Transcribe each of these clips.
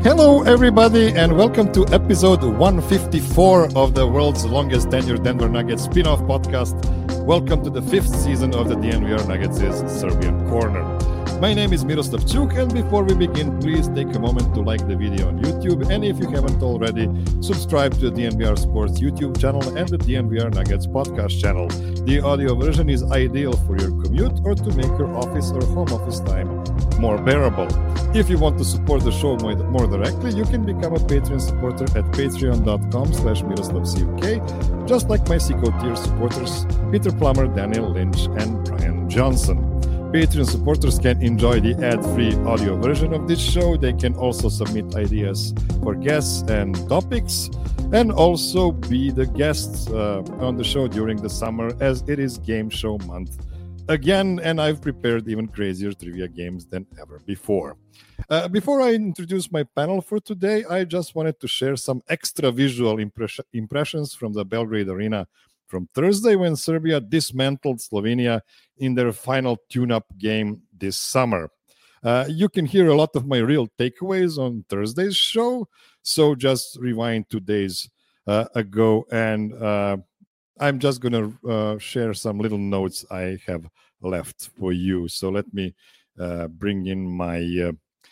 Hello, everybody, and welcome to episode 154 of the world's longest tenured Denver Nuggets spin-off podcast. Welcome to the fifth season of the DNVR Nuggets' Serbian Corner. My name is Miroslav Čuk, and before we begin, please take a moment to like the video on YouTube, and if you haven't already, subscribe to the DNVR Sports YouTube channel and the DNVR Nuggets podcast channel. The audio version is ideal for your commute or to make your office or home office time more bearable. If you want to support the show more directly, you can become a Patreon supporter at patreon.com/MiroslavCuk, just like my Seco tier supporters, Peter Plummer, Daniel Lynch, and Brian Johnson. Patreon supporters can enjoy the ad-free audio version of this show. They can also submit ideas for guests and topics, and also be the guests on the show during the summer, as it is game show month again, and I've prepared even crazier trivia games than ever before. Before I introduce my panel for today, I just wanted to share some extra visual impressions from the Belgrade Arena from Thursday, when Serbia dismantled Slovenia in their final tune-up game this summer. You can hear a lot of my real takeaways on Thursday's show, so just rewind 2 days ago, and I'm just going to share some little notes I have left for you. So let me bring in my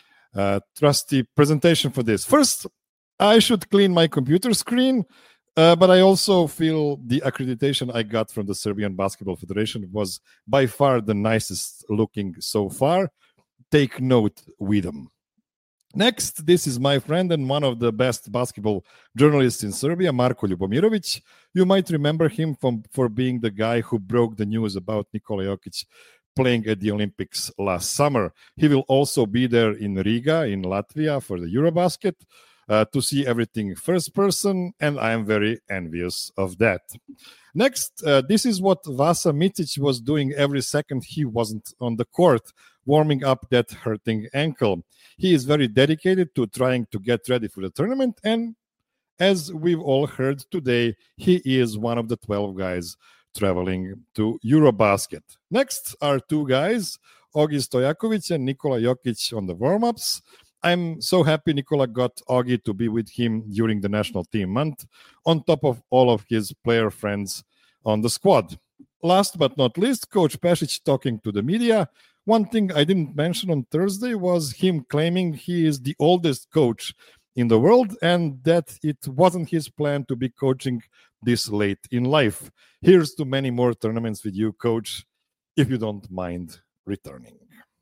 trusty presentation for this. First, I should clean my computer screen, but I also feel the accreditation I got from the Serbian Basketball Federation was by far the nicest looking so far. Take note with them. Next, this is my friend and one of the best basketball journalists in Serbia, Marko Ljubomirovic. You might remember him for being the guy who broke the news about Nikola Jokic playing at the Olympics last summer. He will also be there in Riga, in Latvia, for the Eurobasket to see everything first person, and I am very envious of that. Next, this is what Vasa Micic was doing every second he wasn't on the court, warming up that hurting ankle. He is very dedicated to trying to get ready for the tournament, and as we've all heard today, he is one of the 12 guys traveling to Eurobasket. Next are two guys, Ogi Stojakovic and Nikola Jokic, on the warm-ups. I'm so happy Nikola got Ogi to be with him during the national team month, on top of all of his player friends on the squad. Last but not least, Coach Pešić talking to the media. One thing I didn't mention on Thursday was him claiming he is the oldest coach in the world and that it wasn't his plan to be coaching this late in life. Here's to many more tournaments with you, Coach, if you don't mind returning.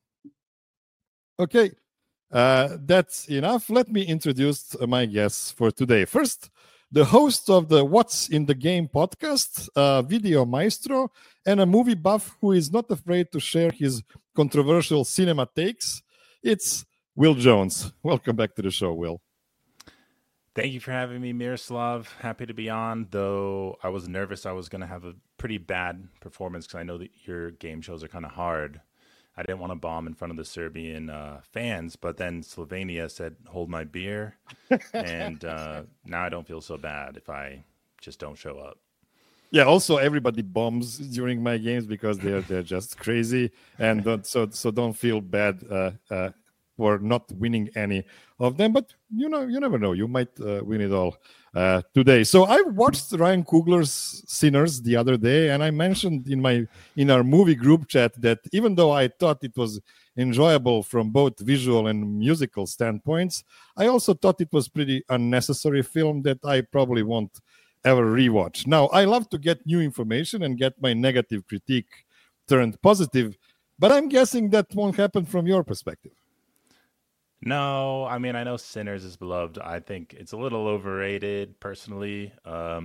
Okay. That's enough. Let me introduce my guests for today. First, the host of the What's in the Game podcast, video maestro, and a movie buff who is not afraid to share his controversial cinema takes. It's Will Jones. Welcome back to the show, Will. Thank you for having me, Miroslav. Happy to be on, though I was nervous I was going to have a pretty bad performance because I know that your game shows are kind of hard. I didn't want to bomb in front of the Serbian fans, but then Slovenia said, hold my beer. And now I don't feel so bad if I just don't show up. Yeah, also everybody bombs during my games because they're just crazy. And don't feel bad for not winning any of them. But, you never know. You might win it all today. So I watched Ryan Coogler's Sinners the other day, and I mentioned in our movie group chat that even though I thought it was enjoyable from both visual and musical standpoints, I also thought it was pretty unnecessary film that I probably won't ever rewatch. Now, I love to get new information and get my negative critique turned positive, but I'm guessing that won't happen from your perspective. No, I mean, I know Sinners is beloved. I think it's a little overrated, personally. I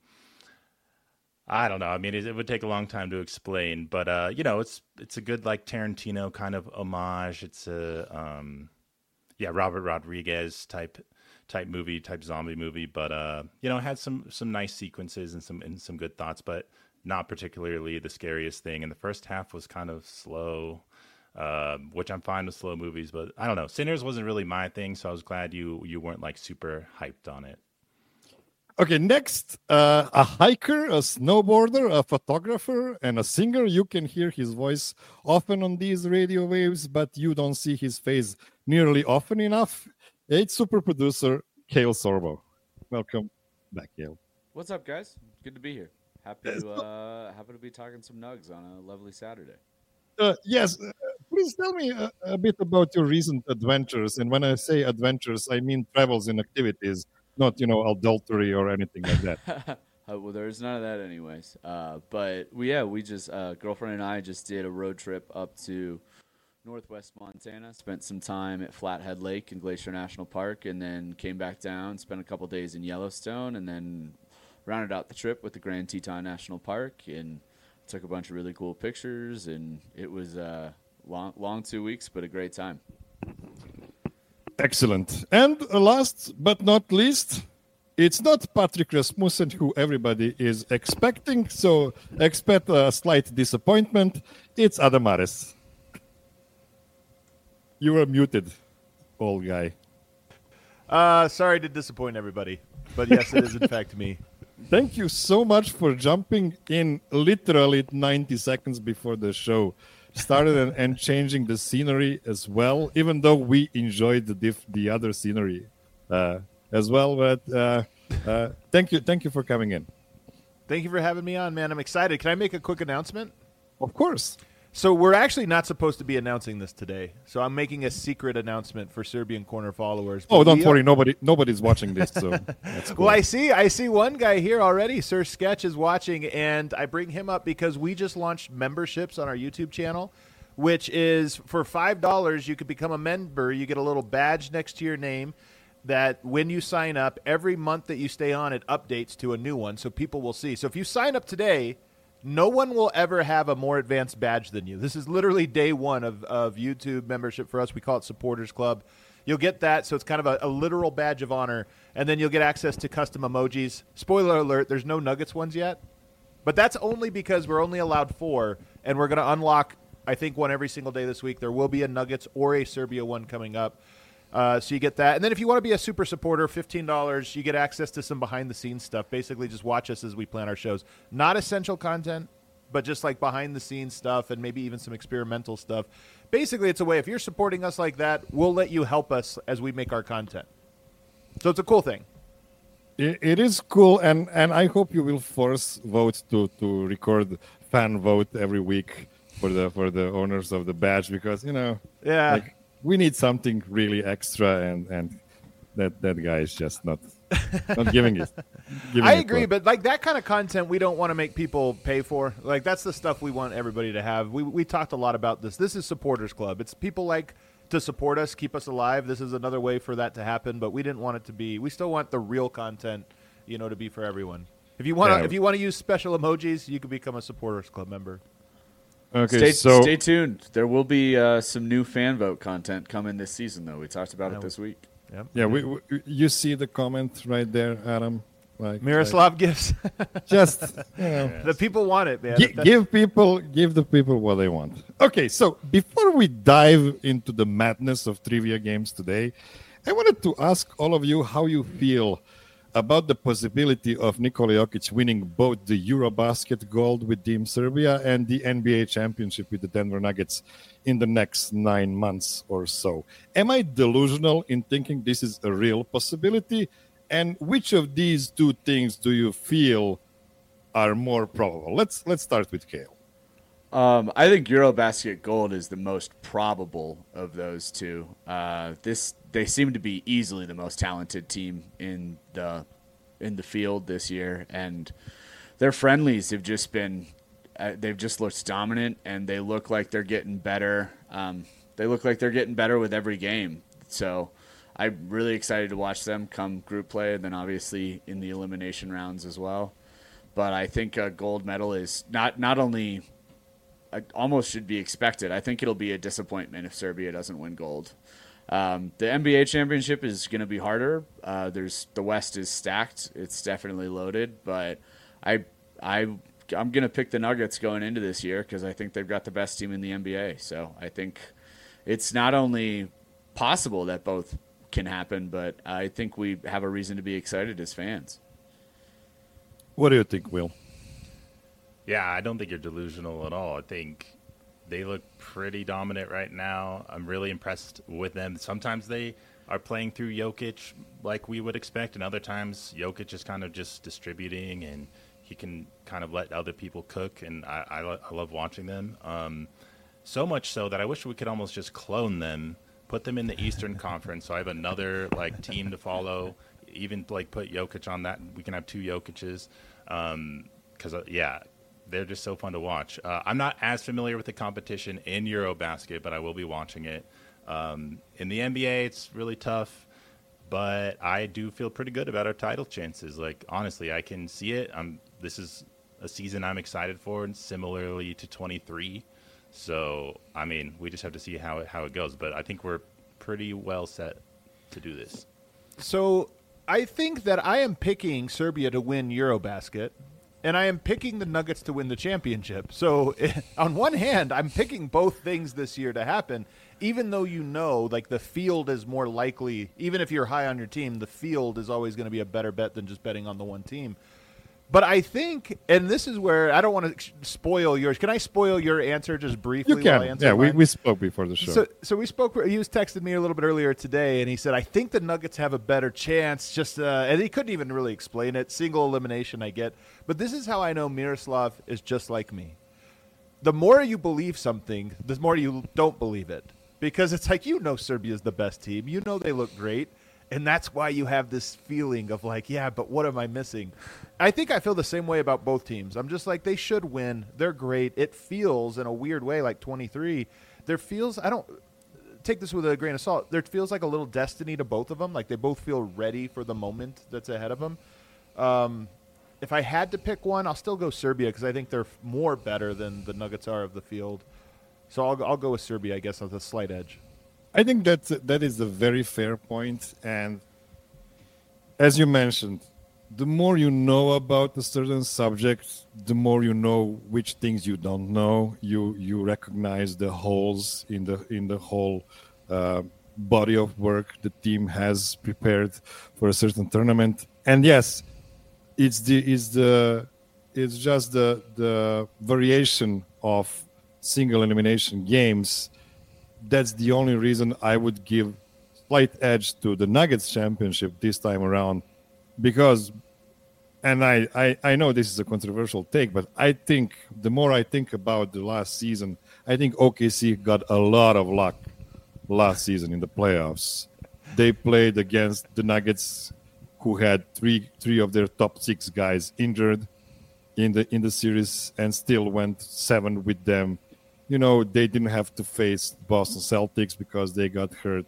don't know. I mean, it would take a long time to explain, but it's a good like Tarantino kind of homage. It's a Robert Rodriguez type movie, type zombie movie, but it had some nice sequences and some good thoughts, but not particularly the scariest thing. And the first half was kind of slow. Which I'm fine with slow movies, but I don't know. Sinners wasn't really my thing, so I was glad you weren't like super hyped on it. Okay, next, a hiker, a snowboarder, a photographer, and a singer. You can hear his voice often on these radio waves, but you don't see his face nearly often enough. It's super producer Kale Sorbo. Welcome back, Kale. What's up, guys? Good to be here. Happy to be talking some nugs on a lovely Saturday. Yes, please tell me a bit about your recent adventures. And when I say adventures, I mean travels and activities, not adultery or anything like that. Well, there's none of that, anyways. But we just girlfriend and I just did a road trip up to Northwest Montana. Spent some time at Flathead Lake and Glacier National Park, and then came back down. Spent a couple days in Yellowstone, and then rounded out the trip with the Grand Teton National Park and took a bunch of really cool pictures, and it was long 2 weeks, but a great time. Excellent. And last but not least, it's not Patrick Rasmussen who everybody is expecting, so expect a slight disappointment. It's Adam Ares. You are muted, old guy. Sorry to disappoint everybody, but yes, it is in fact me. Thank you so much for jumping in literally 90 seconds before the show started and changing the scenery as well, even though we enjoyed the other scenery as well. But thank you for coming in. Thank you for having me on, man. I'm excited. Can I make a quick announcement? Of course. So we're actually not supposed to be announcing this today. So I'm making a secret announcement for Serbian Corner followers. Oh, don't worry. Nobody's watching this, so that's cool. Well, I see one guy here already. Sir Sketch is watching, and I bring him up because we just launched memberships on our YouTube channel, which is for $5 you could become a member. You get a little badge next to your name that when you sign up, every month that you stay on, it updates to a new one so people will see. So if you sign up today, no one will ever have a more advanced badge than you. This is literally day one of YouTube membership for us. We call it Supporters Club. You'll get that, so it's kind of a literal badge of honor, and then you'll get access to custom emojis. Spoiler alert, there's no Nuggets ones yet, but that's only because we're only allowed 4, and we're going to unlock, I think, one every single day this week. There will be a Nuggets or a Serbia one coming up. So you get that. And then if you want to be a super supporter, $15, you get access to some behind-the-scenes stuff. Basically, just watch us as we plan our shows. Not essential content, but just like behind-the-scenes stuff and maybe even some experimental stuff. Basically, it's a way, if you're supporting us like that, we'll let you help us as we make our content. So it's a cool thing. It is cool, and I hope you will force vote to record fan vote every week for the owners of the badge, because, like, we need something really extra, and that guy is just not giving it. I agree, but like that kind of content, we don't want to make people pay for. Like, that's the stuff we want everybody to have. We talked a lot about this. This is Supporters Club. It's people like to support us, keep us alive. This is another way for that to happen, but we didn't want it to be. We still want the real content, to be for everyone. If you want to use special emojis, you can become a Supporters Club member. Okay, stay tuned. There will be some new fan vote content coming this season, though. We talked about it this week. Yep. Yeah, you see the comment right there, Adam. Like Miroslav gifts. Just the people want it, man. Give the people what they want. Okay, so before we dive into the madness of trivia games today, I wanted to ask all of you how you feel about the possibility of Nikola Jokic winning both the Eurobasket gold with Team Serbia and the NBA championship with the Denver Nuggets in the next 9 months or so. Am I delusional in thinking this is a real possibility? And which of these two things do you feel are more probable? Let's start with Kale. I think Eurobasket gold is the most probable of those two. They seem to be easily the most talented team in the field this year, and their friendlies have just been they've just looked dominant, and they look like they're getting better. They look like they're getting better with every game. So I'm really excited to watch them come group play, and then obviously in the elimination rounds as well. But I think a gold medal is not only almost should be expected. I think it'll be a disappointment if Serbia doesn't win gold. The NBA championship is going to be harder. The West is stacked. It's definitely loaded, but I'm going to pick the Nuggets going into this year because I think they've got the best team in the NBA. So I think it's not only possible that both can happen, but I think we have a reason to be excited as fans. What do you think, Will? Yeah, I don't think you're delusional at all. I think They look pretty dominant right now. I'm really impressed with them. Sometimes they are playing through Jokic like we would expect, and other times Jokic is kind of just distributing, and he can kind of let other people cook, and I love watching them. So much so that I wish we could almost just clone them, put them in the Eastern Conference, so I have another like team to follow. Even like put Jokic on that, we can have two Jokic's. Because they're just so fun to watch. I'm not as familiar with the competition in Eurobasket, but I will be watching it. In the NBA, it's really tough, but I do feel pretty good about our title chances. Like, honestly, I can see it. This is a season I'm excited for, and similarly to 23. So, I mean, we just have to see how it goes. But I think we're pretty well set to do this. So I think that I am picking Serbia to win Eurobasket, and I am picking the Nuggets to win the championship. So on one hand, I'm picking both things this year to happen, even though like the field is more likely, even if you're high on your team, the field is always going to be a better bet than just betting on the one team. But I think, and this is where I don't want to spoil yours. Can I spoil your answer just briefly? You can. While I answer Yeah, mine? we spoke before the show. So we spoke. He was texting me a little bit earlier today, and he said, I think the Nuggets have a better chance. And he couldn't even really explain it. Single elimination, I get. But this is how I know Miroslav is just like me. The more you believe something, the more you don't believe it. Because it's like, Serbia's the best team. They look great. And that's why you have this feeling of like, yeah, but what am I missing? I think I feel the same way about both teams. I'm just like, they should win. They're great. It feels in a weird way like 23. There feels, I don't take this with a grain of salt. There feels like a little destiny to both of them. Like they both feel ready for the moment that's ahead of them. If I had to pick one, I'll still go Serbia because I think they're more better than the Nuggets are of the field. So I'll go with Serbia, I guess, with a slight edge. I think that is a very fair point. And as you mentioned, the more you know about a certain subject, the more you know which things you don't know. You recognize the holes in the whole body of work the team has prepared for a certain tournament. And yes, it's just the variation of single elimination games. That's the only reason I would give slight edge to the Nuggets championship this time around, because, and I know this is a controversial take, but I think the more I think about the last season, I think OKC got a lot of luck last season in the playoffs. They played against the Nuggets, who had three of their top 6 guys injured in the series, and still went 7 with them. They didn't have to face Boston Celtics because they got hurt.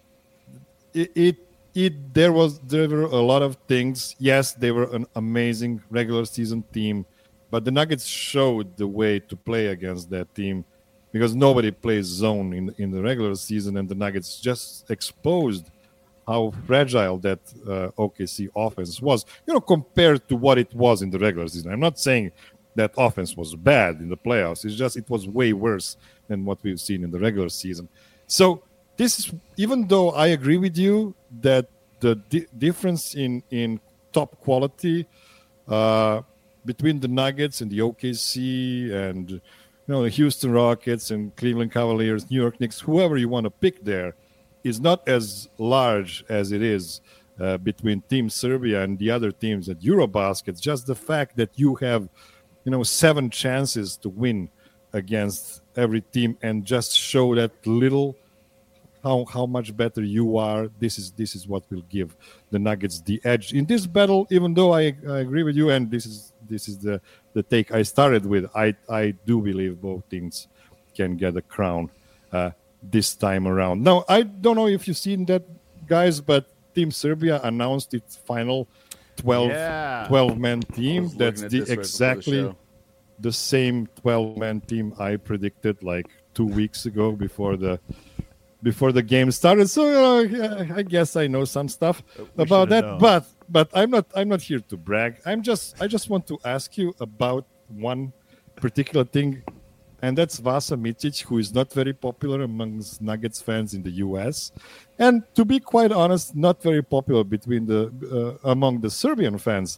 There were a lot of things. Yes, they were an amazing regular season team, but the Nuggets showed the way to play against that team, because nobody plays zone in the regular season, and the Nuggets just exposed how fragile that OKC offense was, compared to what it was in the regular season. I'm not saying that offense was bad in the playoffs. It's just it was way worse than what we've seen in the regular season. So this is, even though I agree with you that the difference in top quality between the Nuggets and the OKC and the Houston Rockets and Cleveland Cavaliers, New York Knicks, whoever you want to pick there, is not as large as it is between Team Serbia and the other teams at Eurobasket. Just the fact that you have 7 chances to win against every team, and just show that little how much better you are. This is what will give the Nuggets the edge in this battle. Even though I agree with you, and this is the take I started with. I do believe both teams can get a crown this time around. Now, I don't know if you've seen that, guys, but Team Serbia announced its final 12-man team. That's exactly the same 12-man team I predicted like 2 weeks ago before the game started. So I guess I know some stuff about that. Known. But I'm not here to brag. I just want to ask you about one particular thing, and that's Vasa Micic, who is not very popular amongst Nuggets fans in the U.S. And to be quite honest, not very popular among the Serbian fans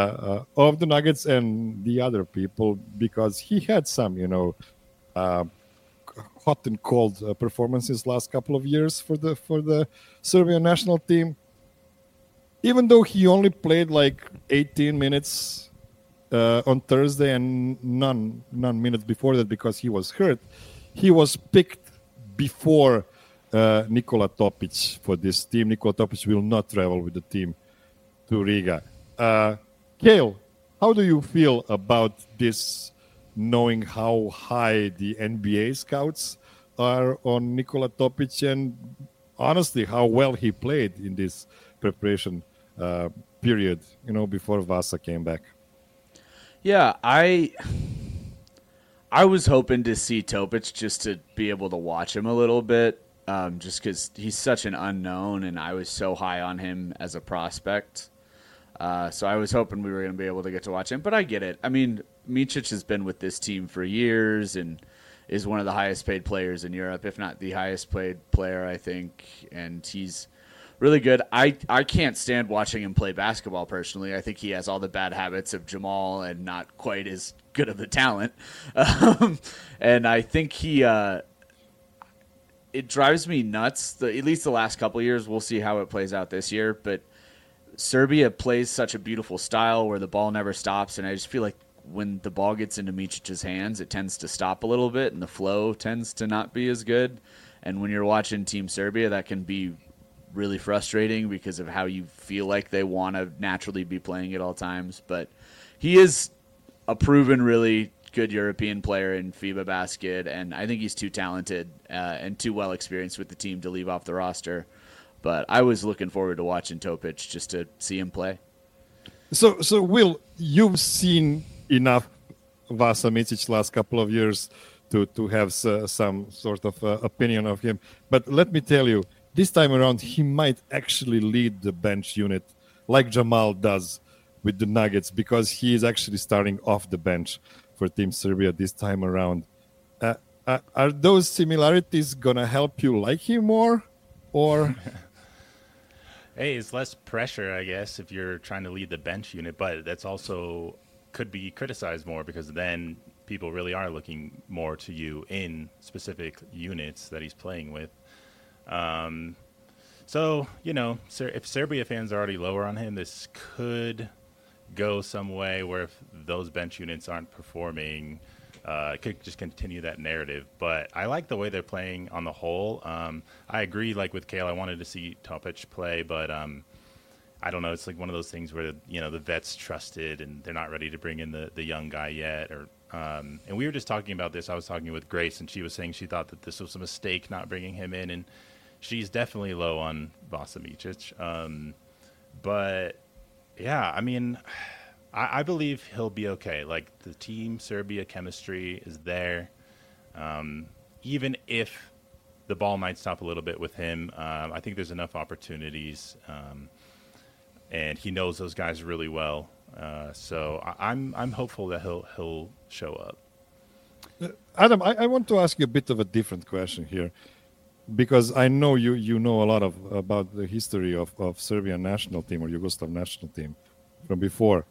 of the Nuggets and the other people, because he had some, hot and cold performances last couple of years for the Serbian national team. Even though he only played like 18 minutes on Thursday and none minutes before that because he was hurt, he was picked before Nikola Topic for this team. Nikola Topic will not travel with the team to Riga. Cale, how do you feel about this, knowing how high the NBA scouts are on Nikola Topic and honestly how well he played in this preparation period, before Vasa came back? Yeah, I was hoping to see Topic just to be able to watch him a little bit, just because he's such an unknown, and I was so high on him as a prospect. So I was hoping we were going to be able to get to watch him, but I get it. I mean, Micic has been with this team for years and is one of the highest paid players in Europe, if not the highest paid player, I think, and he's really good. I can't stand watching him play basketball personally. I think he has all the bad habits of Jamal and not quite as good of the talent. And I think it drives me nuts. At least the last couple of years, we'll see how it plays out this year. But Serbia plays such a beautiful style where the ball never stops. And I just feel like when the ball gets into Micic's hands, it tends to stop a little bit and the flow tends to not be as good. And when you're watching Team Serbia, that can be really frustrating because of how you feel like they want to naturally be playing at all times. But he is a proven really good European player in FIBA basket, and I think he's too talented and too well experienced with the team to leave off the roster. But I was looking forward to watching Topic just to see him play. So Will, you've seen enough Vasa Micic last couple of years to have some sort of opinion of him. But let me tell you, this time around, he might actually lead the bench unit like Jamal does with the Nuggets because he is actually starting off the bench for Team Serbia this time around. Are those similarities going to help you like him more? Or Hey, it's less pressure, I guess, if you're trying to lead the bench unit, but that's also could be criticized more because then people really are looking more to you in specific units that he's playing with. So, if Serbia fans are already lower on him, this could go some way where if those bench units aren't performing, it could just continue that narrative. But I like the way they're playing on the whole. I agree, like with Cale, I wanted to see Topic play, but I don't know. It's like one of those things where, the vet's trusted and they're not ready to bring in the young guy yet. And we were just talking about this. I was talking with Grace, and she was saying she thought that this was a mistake not bringing him in, and she's definitely low on Vasa Micic. But, yeah, I mean, I believe he'll be okay. Like, the Team Serbia chemistry is there. Even if the ball might stop a little bit with him, I think there's enough opportunities. And he knows those guys really well. So I'm hopeful that he'll show up. Adam, I want to ask you a bit of a different question here. Because I know you know a lot about the history of Serbian national team or Yugoslav national team from before.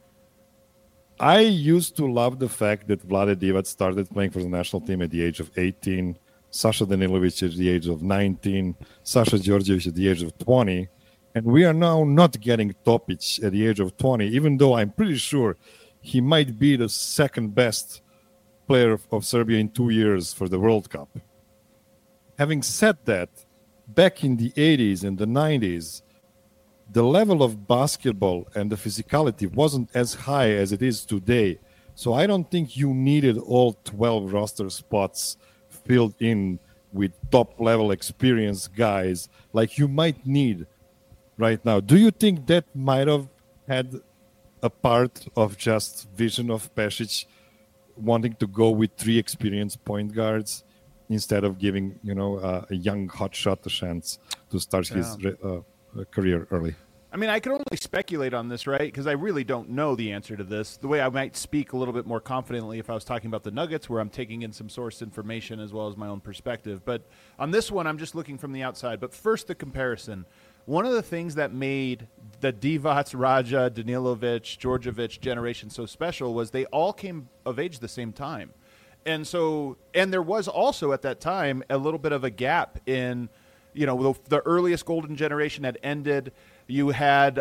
I used to love the fact that Vlade Divac started playing for the national team at the age of 18, Sasha Danilovic at the age of 19, Sasha Djordjevic at the age of 20, and we are now not getting Topic at the age of 20, even though I'm pretty sure he might be the second best player of Serbia in 2 years for the World Cup. Having said that, back in the 80s and the 90s, the level of basketball and the physicality wasn't as high as it is today. So I don't think you needed all 12 roster spots filled in with top-level experienced guys like you might need right now. Do you think that might have had a part of just vision of Pešić wanting to go with 3 experienced point guards instead of giving, a young hotshot a chance to start his career early? I mean, I can only speculate on this, right? Because I really don't know the answer to this. The way I might speak a little bit more confidently if I was talking about the Nuggets, where I'm taking in some source information as well as my own perspective. But on this one, I'm just looking from the outside. But first, the comparison. One of the things that made the Divac, Raja, Danilovic, Djordjevic generation so special was they all came of age the same time. And so, and there was also at that time a little bit of a gap in, the earliest golden generation had ended. You had,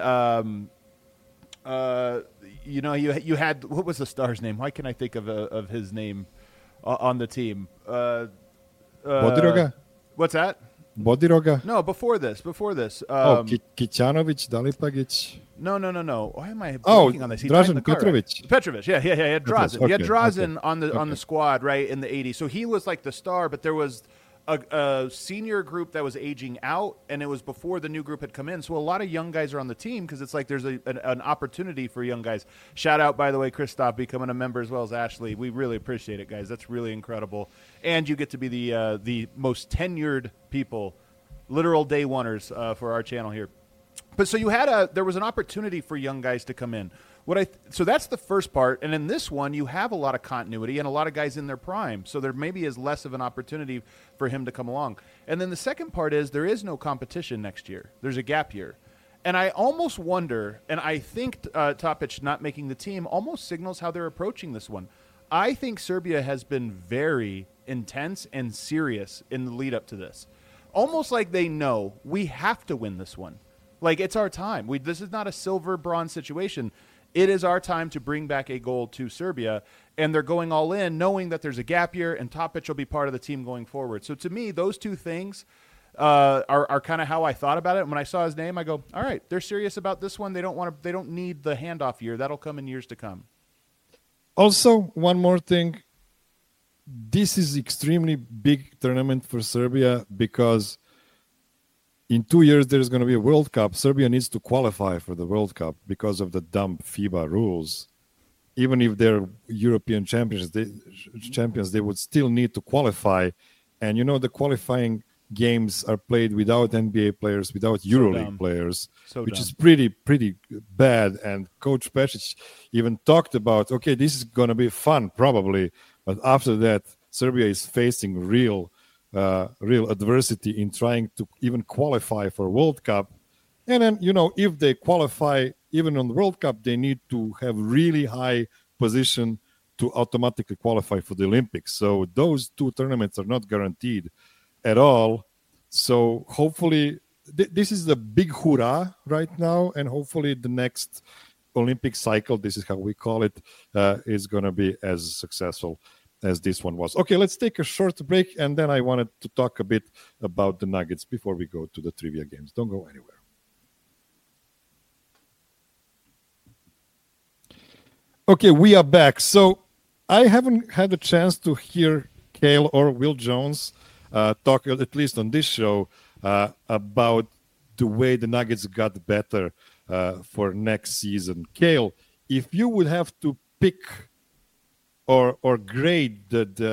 you had, what was the star's name? Why can't I think of his name on the team? Bodiroga? What's that? Bodiroga? No, before this. Kicanovic, Dalipagic. No. Why am I blanking on this? Dražen Petrovic. Right? Petrovic, yeah. He had Drazen. Okay, He had Drazen on the squad, right, in the 80s. So he was like the star, but there was a senior group that was aging out, and it was before the new group had come in. So a lot of young guys are on the team because it's like there's an opportunity for young guys. Shout out, by the way, Christoph becoming a member as well as Ashley. We really appreciate it, guys. That's really incredible. And you get to be the most tenured people, literal day oneers for our channel here. But so there was an opportunity for young guys to come in. So that's the first part. And in this one, you have a lot of continuity and a lot of guys in their prime. So there maybe is less of an opportunity for him to come along. And then the second part is there is no competition next year. There's a gap year. And I almost wonder, and I think Topic not making the team almost signals how they're approaching this one. I think Serbia has been very intense and serious in the lead up to this. Almost like they know we have to win this one. Like, it's our time. This is not a silver bronze situation. It is our time to bring back a gold to Serbia, and they're going all in, knowing that there's a gap year, and Topic will be part of the team going forward. So to me, those two things are kind of how I thought about it. And when I saw his name, I go, all right, they're serious about this one. They don't need the handoff year. That'll come in years to come. Also, one more thing. This is extremely big tournament for Serbia because in 2 years there's going to be a World Cup. Serbia needs to qualify for the World Cup because of the dumb FIBA rules. Even if they're European champions, they would still need to qualify. And the qualifying games are played without NBA players, without EuroLeague players, which is pretty bad. And Coach Pešić even talked about, okay, this is going to be fun probably, but after that, Serbia is facing real adversity in trying to even qualify for World Cup. And then, if they qualify even on the World Cup, they need to have really high position to automatically qualify for the Olympics. So those two tournaments are not guaranteed at all. So hopefully this is the big hurrah right now. And hopefully the next Olympic cycle, this is how we call it, is going to be as successful as this one was. Okay, let's take a short break, and then I wanted to talk a bit about the Nuggets before we go to the trivia games. Don't go anywhere. Okay, we are back. So I haven't had a chance to hear Cale or Will Jones talk, at least on this show, about the way the Nuggets got better for next season. Cale, if you would have to pick or grade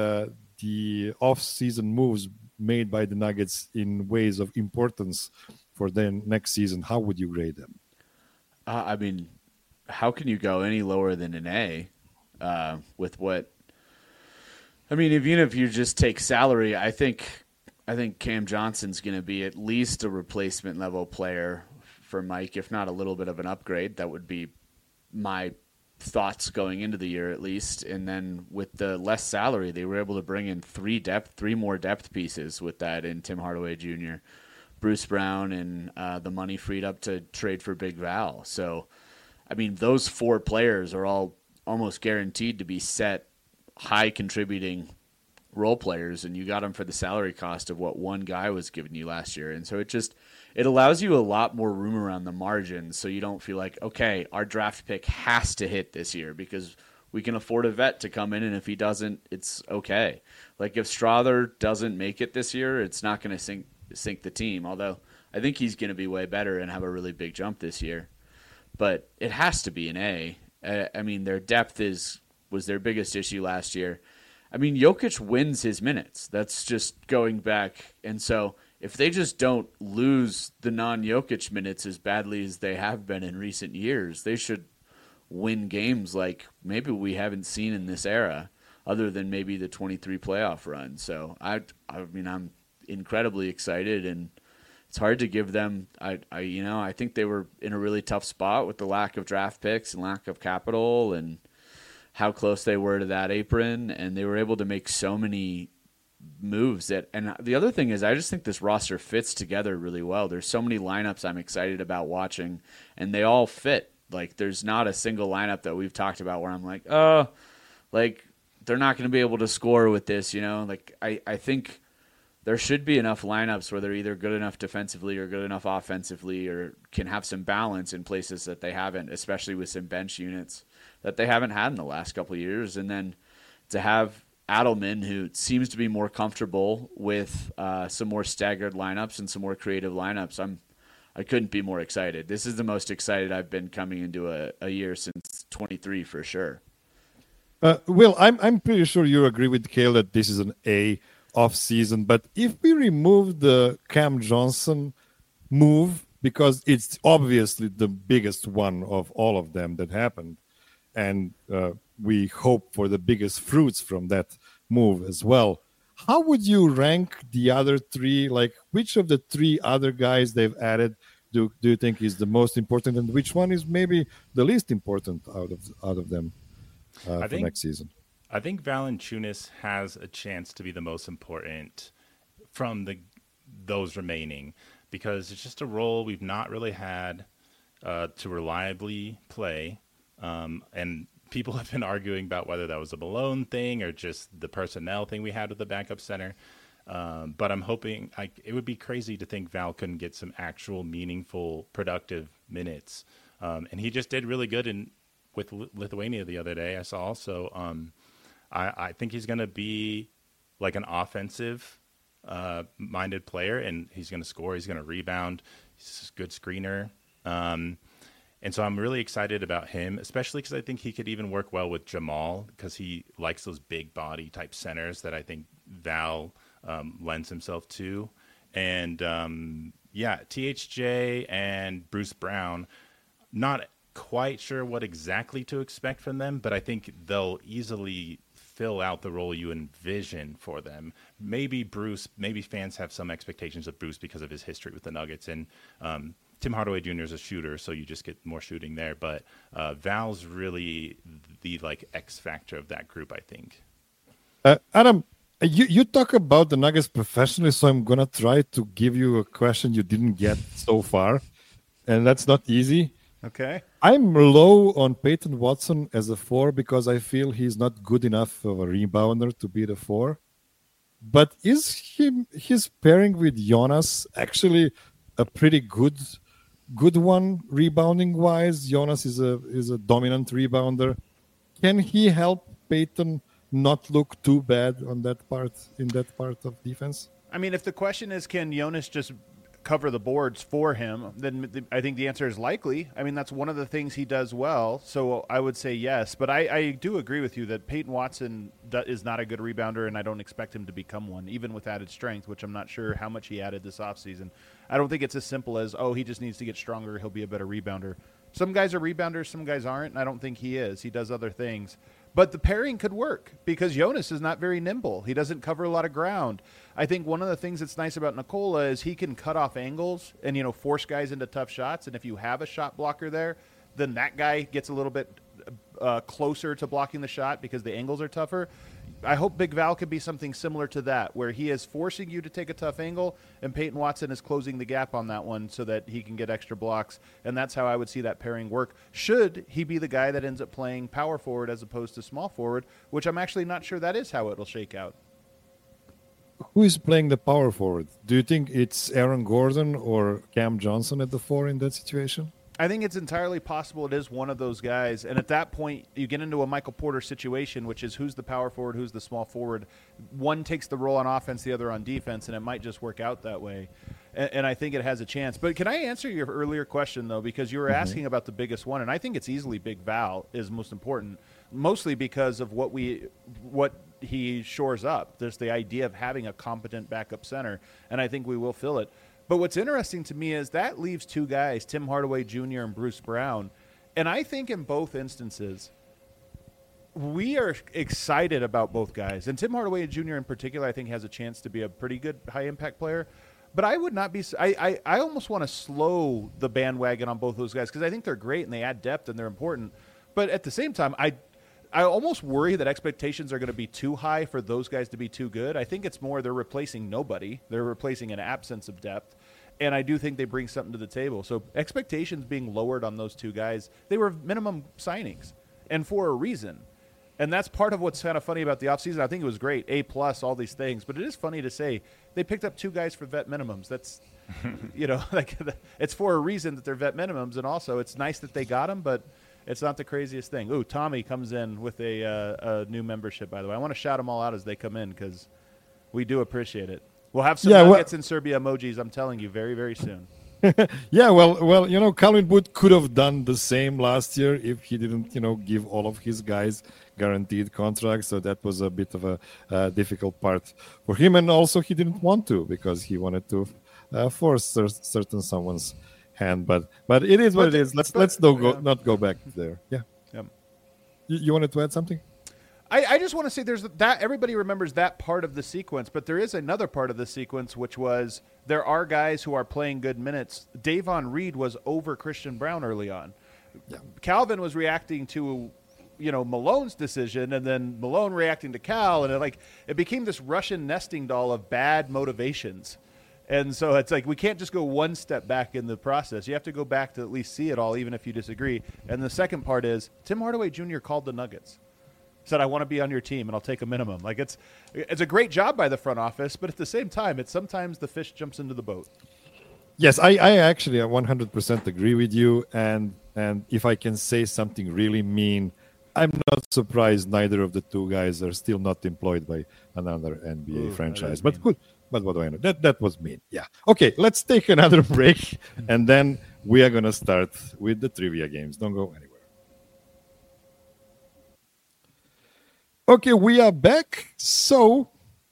the off-season moves made by the Nuggets in ways of importance for the next season, how would you grade them? I mean, how can you go any lower than an A with what? I mean, even if you just take salary, I think Cam Johnson's going to be at least a replacement level player for Mike, if not a little bit of an upgrade. That would be my thoughts going into the year at least. And then with the less salary, they were able to bring in three more depth pieces with that in Tim Hardaway Jr., Bruce Brown, and the money freed up to trade for Big Val. So, I mean, those four players are all almost guaranteed to be set high contributing role players, and you got them for the salary cost of what one guy was giving you last year. And so it allows you a lot more room around the margins, so you don't feel like, okay, our draft pick has to hit this year because we can afford a vet to come in, and if he doesn't, it's okay. Like if Strother doesn't make it this year, it's not going to sink the team, although I think he's going to be way better and have a really big jump this year. But it has to be an A. I mean, their depth was their biggest issue last year. I mean, Jokic wins his minutes. That's just going back. And so if they just don't lose the non-Jokic minutes as badly as they have been in recent years, they should win games like maybe we haven't seen in this era, other than maybe the 23 playoff run. So I mean, I'm incredibly excited, and it's hard to give them. I think they were in a really tough spot with the lack of draft picks and lack of capital, and how close they were to that apron, and they were able to make so many moves that. And the other thing is, I just think this roster fits together really well. There's so many lineups I'm excited about watching, and they all fit. Like, there's not a single lineup that we've talked about where I'm like, oh, like, they're not going to be able to score with this, you know? Like, I think there should be enough lineups where they're either good enough defensively or good enough offensively or can have some balance in places that they haven't, especially with some bench units that they haven't had in the last couple of years. And then to have Adelman, who seems to be more comfortable with some more staggered lineups and some more creative lineups, I couldn't be more excited. This is the most excited I've been coming into a year since 23 for sure. Will, I'm pretty sure you agree with Cale that this is an A off season. But if we remove the Cam Johnson move, because it's obviously the biggest one of all of them that happened, and we hope for the biggest fruits from that move as well. How would you rank the other three? Like, which of the three other guys they've added do you think is the most important, and which one is maybe the least important out of them for next season? I think Valanciunas has a chance to be the most important from those remaining, because it's just a role we've not really had to reliably play, and people have been arguing about whether that was a Malone thing or just the personnel thing we had with the backup center. But I'm hoping it would be crazy to think Val couldn't get some actual meaningful, productive minutes. And he just did really good with Lithuania the other day, I saw. So I think he's going to be like an offensive minded player, and he's going to score. He's going to rebound. He's a good screener. And so I'm really excited about him, especially because I think he could even work well with Jamal, because he likes those big body type centers that I think Val lends himself to. And THJ and Bruce Brown, not quite sure what exactly to expect from them, but I think they'll easily fill out the role you envision for them. Maybe fans have some expectations of Bruce because of his history with the Nuggets, and Tim Hardaway Jr. is a shooter, so you just get more shooting there. But Val's really the X factor of that group, I think. Adam, you talk about the Nuggets professionally, so I'm gonna try to give you a question you didn't get so far, and that's not easy. Okay. I'm low on Peyton Watson as a 4 because I feel he's not good enough of a rebounder to be the 4. But is his pairing with Jonas actually a pretty good one rebounding wise? Jonas is a dominant rebounder. Can he help Peyton not look too bad in that part of defense? I mean, if the question is, can Jonas just cover the boards for him, then I think the answer is likely. I mean, that's one of the things he does well, so I would say yes. But I do agree with you that Peyton Watson is not a good rebounder, and I don't expect him to become one, even with added strength, which I'm not sure how much he added this offseason. I don't think it's as simple as, he just needs to get stronger, he'll be a better rebounder. Some guys are rebounders, some guys aren't, and I don't think he is. He does other things. But the pairing could work because Jonas is not very nimble. He doesn't cover a lot of ground. I think one of the things that's nice about Nikola is he can cut off angles and, force guys into tough shots. And if you have a shot blocker there, then that guy gets a little bit closer to blocking the shot because the angles are tougher. I hope Big Val could be something similar to that, where he is forcing you to take a tough angle, and Peyton Watson is closing the gap on that one so that he can get extra blocks. And that's how I would see that pairing work, should he be the guy that ends up playing power forward as opposed to small forward, which I'm actually not sure that is how it'll shake out. Who is playing the power forward? Do you think it's Aaron Gordon or Cam Johnson at the 4 in that situation? I think it's entirely possible it is one of those guys. And at that point, you get into a Michael Porter situation, which is who's the power forward, who's the small forward. One takes the role on offense, the other on defense, and it might just work out that way. And I think it has a chance. But can I answer your earlier question, though, because you were asking about the biggest one, and I think it's easily Big Val is most important, mostly because of what he shores up. There's the idea of having a competent backup center, and I think we will fill it. But what's interesting to me is that leaves two guys, Tim Hardaway Jr. and Bruce Brown. And I think in both instances, we are excited about both guys. And Tim Hardaway Jr. in particular, I think, has a chance to be a pretty good high-impact player. But I would not be – I almost want to slow the bandwagon on both those guys because I think they're great and they add depth and they're important. But at the same time, I almost worry that expectations are going to be too high for those guys to be too good. I think it's more they're replacing nobody. They're replacing an absence of depth. And I do think they bring something to the table. So expectations being lowered on those two guys, they were minimum signings and for a reason. And that's part of what's kind of funny about the offseason. I think it was great, A+, all these things. But it is funny to say they picked up two guys for vet minimums. That's, like it's for a reason that they're vet minimums. And also it's nice that they got them, but it's not the craziest thing. Ooh, Tommy comes in with a new membership, by the way. I want to shout them all out as they come in because we do appreciate it. We'll have some nuggets in Serbia emojis, I'm telling you, very, very soon. Yeah, well, Calvin Booth could have done the same last year if he didn't, give all of his guys guaranteed contracts. So that was a bit of a difficult part for him. And also he didn't want to because he wanted to force certain someone's hand. But it is what it is. Let's not go back there. Yeah. You wanted to add something? I just want to say there's that everybody remembers that part of the sequence, but there is another part of the sequence, which was there are guys who are playing good minutes. Davon Reed was over Christian Brown early on. Yeah. Calvin was reacting to, Malone's decision, and then Malone reacting to Cal, and it became this Russian nesting doll of bad motivations. And so it's like we can't just go one step back in the process. You have to go back to at least see it all, even if you disagree. And the second part is Tim Hardaway Jr. called the Nuggets. Said, I want to be on your team, and I'll take a minimum. It's a great job by the front office, but at the same time, it's sometimes the fish jumps into the boat. Yes, I actually 100% agree with you. And if I can say something really mean, I'm not surprised neither of the two guys are still not employed by another NBA franchise. But good. But what do I know? That was mean. Yeah. Okay, let's take another break, and then we are going to start with the trivia games. Don't go anywhere. Okay, we are back. So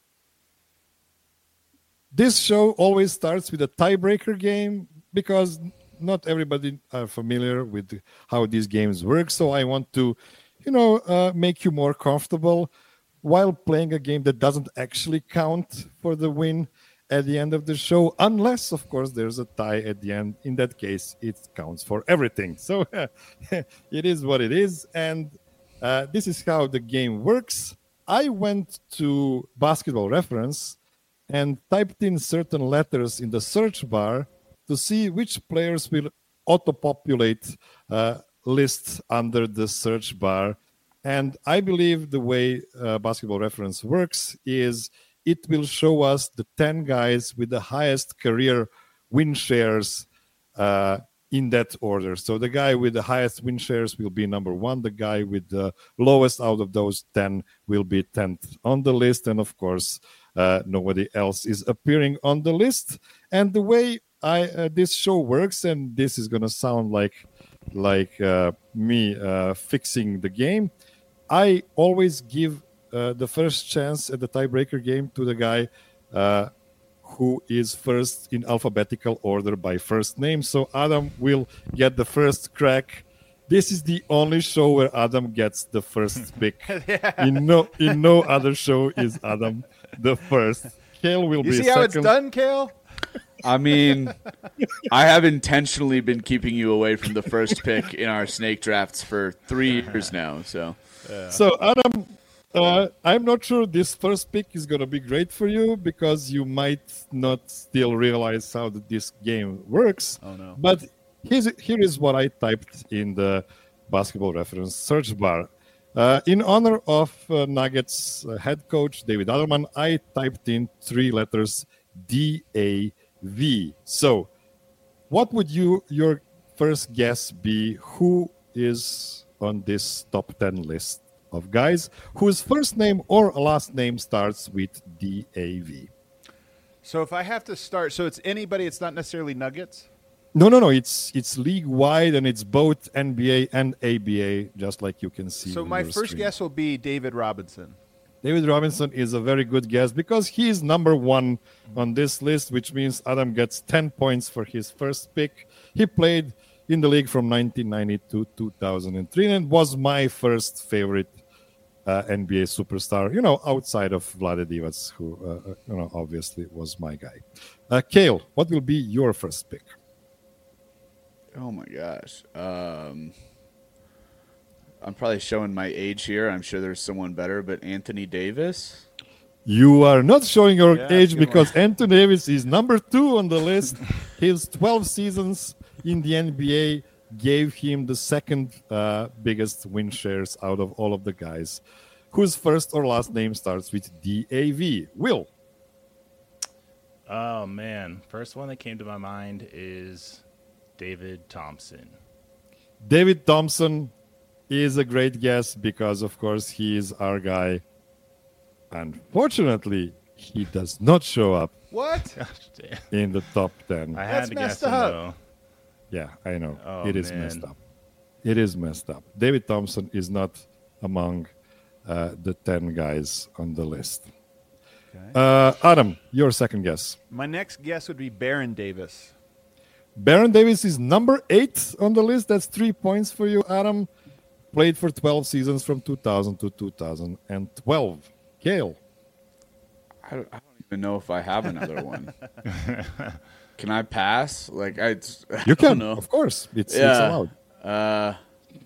this show always starts with a tiebreaker game because not everybody are familiar with how these games work. So I want to, make you more comfortable while playing a game that doesn't actually count for the win at the end of the show, unless, of course, there's a tie at the end. In that case, it counts for everything. So it is what it is. And this is how the game works. I went to Basketball Reference and typed in certain letters in the search bar to see which players will auto-populate lists under the search bar. And I believe the way Basketball Reference works is it will show us the 10 guys with the highest career win shares in that order. So the guy with the highest win shares will be number 1. The guy with the lowest out of those 10 will be 10th on the list. And of course, nobody else is appearing on the list. And the way this show works, and this is going to sound like me fixing the game, I always give the first chance at the tiebreaker game to the guy who is first in alphabetical order by first name. So Adam will get the first crack. This is the only show where Adam gets the first pick. Yeah. In no other show is Adam the first. Kale will be second. You see how it's done, Kale? I mean, I have intentionally been keeping you away from the first pick in our snake drafts for 3 years now. So Adam, I'm not sure this first pick is going to be great for you because you might not still realize how this game works. Oh, no. But here is what I typed in the Basketball Reference search bar. In honor of Nuggets head coach David Adelman, I typed in 3 letters DAV. So what would your first guess be? Who is on this top 10 list of guys whose first name or last name starts with DAV? So if I have to start, so it's anybody, it's not necessarily Nuggets? No. It's league-wide, and it's both NBA and ABA, just like you can see. So my first screen. guess will be David Robinson. David Robinson is a very good guess because he's number 1 on this list, which means Adam gets 10 points for his first pick. He played in the league from 1990 to 2003 and was my first favorite NBA superstar, outside of Vlade Divac, who, obviously was my guy. Kale, what will be your first pick? Oh my gosh. I'm probably showing my age here. I'm sure there's someone better, but Anthony Davis. You are not showing your Yeah, age good because Anthony Davis is number 2 on the list. His 12 seasons in the NBA gave him the second biggest win shares out of all of the guys whose first or last name starts with DAV. Will. Oh, man. First one that came to my mind is David Thompson. David Thompson is a great guess because, of course, he is our guy. Unfortunately, he does not show up What? Gosh, damn. in the top 10. I That's had to guess messed him, up. though. Yeah, I know. Oh, It is man. messed up. It is messed up. David Thompson is not among the 10 guys on the list. Adam, your second guess. My next guess would be Baron Davis. Baron Davis is number 8 on the list. That's 3 points for you, Adam. Played for 12 seasons from 2000 to 2012. Kale. I don't even know if I have another one. Can I pass? Like I You don't can, know. of course. It's Yeah. allowed.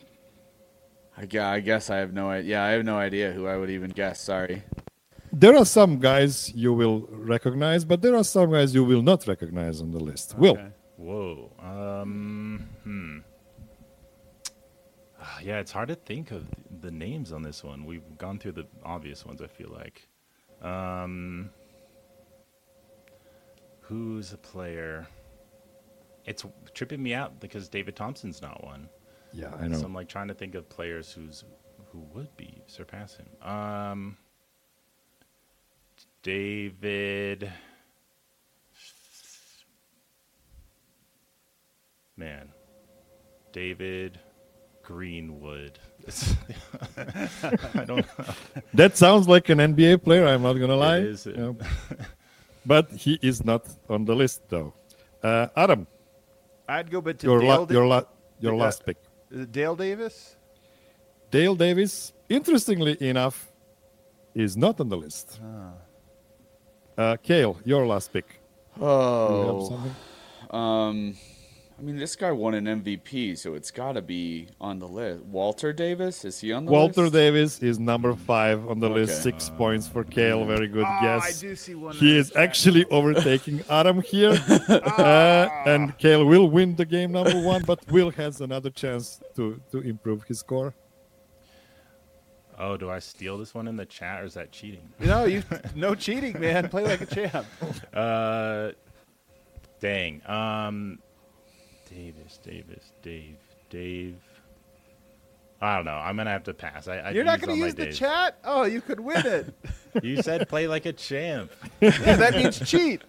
I guess I have no idea. Yeah, I have no idea who I would even guess. Sorry. There are some guys you will recognize, but there are some guys you will not recognize on the list. Will. Okay. Whoa. Yeah, it's hard to think of the names on this one. We've gone through the obvious ones, I feel like. Who's a player? It's tripping me out because David Thompson's not one. Yeah, I know. So I'm like trying to think of players who would surpass him. David. Man, David Greenwood. I don't know. That sounds like an NBA player, I'm not going to lie. is. But he is not on the list, though. Adam, I'd go but to your, Dale. your last pick. Is it Dale Davis? Dale Davis, interestingly enough, is not on the list. Kale, your last pick. Do you have Oh, something? I mean, this guy won an MVP, so it's got to be on the list. Walter Davis, is he on the List. Walter list? Davis is number 5 on the list. Okay. 6 points for Kale. Very good I guess. do see one. He is actually overtaking Adam here. And Kale will win the game number 1, but Will has another chance to improve his score. Oh, do I steal this one in the chat or is that cheating? No cheating, man. Play like a champ. Dang. Dave. I don't know. I'm gonna have to pass. You're not going to use the chat? Oh, you could win it. You said play like a champ. Yeah, that means cheat.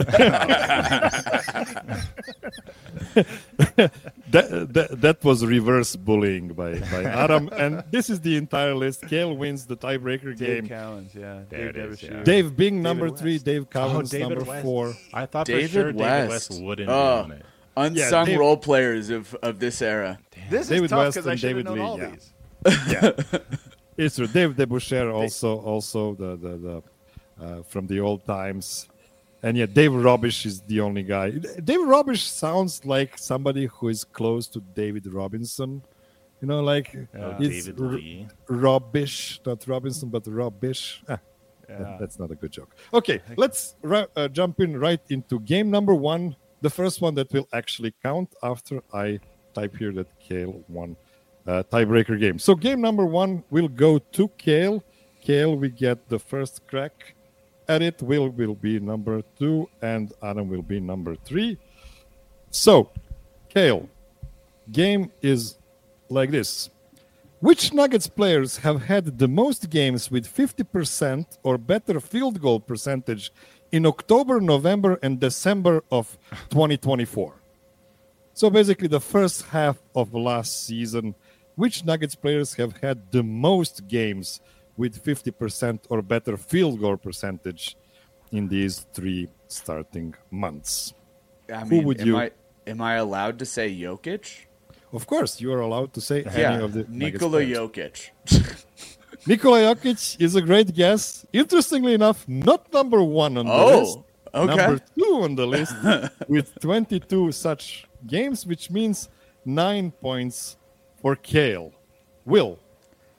That was reverse bullying by Adam. And this is the entire list. Kale wins the tiebreaker Dave game. Cowens, yeah. There it Dave is, Devonshire. yeah. Dave Bing, David number West. 3. Dave Cowens, David number West. 4. I thought David for sure David West. West wouldn't be Oh. on it. Unsung Dave- role players of this era. This David is tough West because I and should have David known Lee, all yeah. these. It's true. Dave Deboucher also the from the old times. And yeah, Dave Robish is the only guy. Dave Robish sounds like somebody who is close to David Robinson. You know, like it's David Lee. Robish, not Robinson, but Robish. That's not a good joke. Okay, let's jump in right into game number 1. The first one that will actually count after I type here that Kale won tiebreaker game. So game number 1 will go to Kale. Kale, we get the first crack at it. Will be number 2, and Adam will be number 3. So, Kale, game is like this. Which Nuggets players have had the most games with 50% or better field goal percentage in October, November, and December of 2024? So basically the first half of last season, which Nuggets players have had the most games with 50% or better field goal percentage in these 3 starting months? I mean, would you- am I allowed to say Jokic? Of course, you are allowed to say any Yeah, of the Nuggets Nikola players. Jokic. Nikola Jokic is a great guess. Interestingly enough, not number 1 on the list. Oh, okay. Number 2 on the list with 22 such games, which means 9 points for Kale. Will,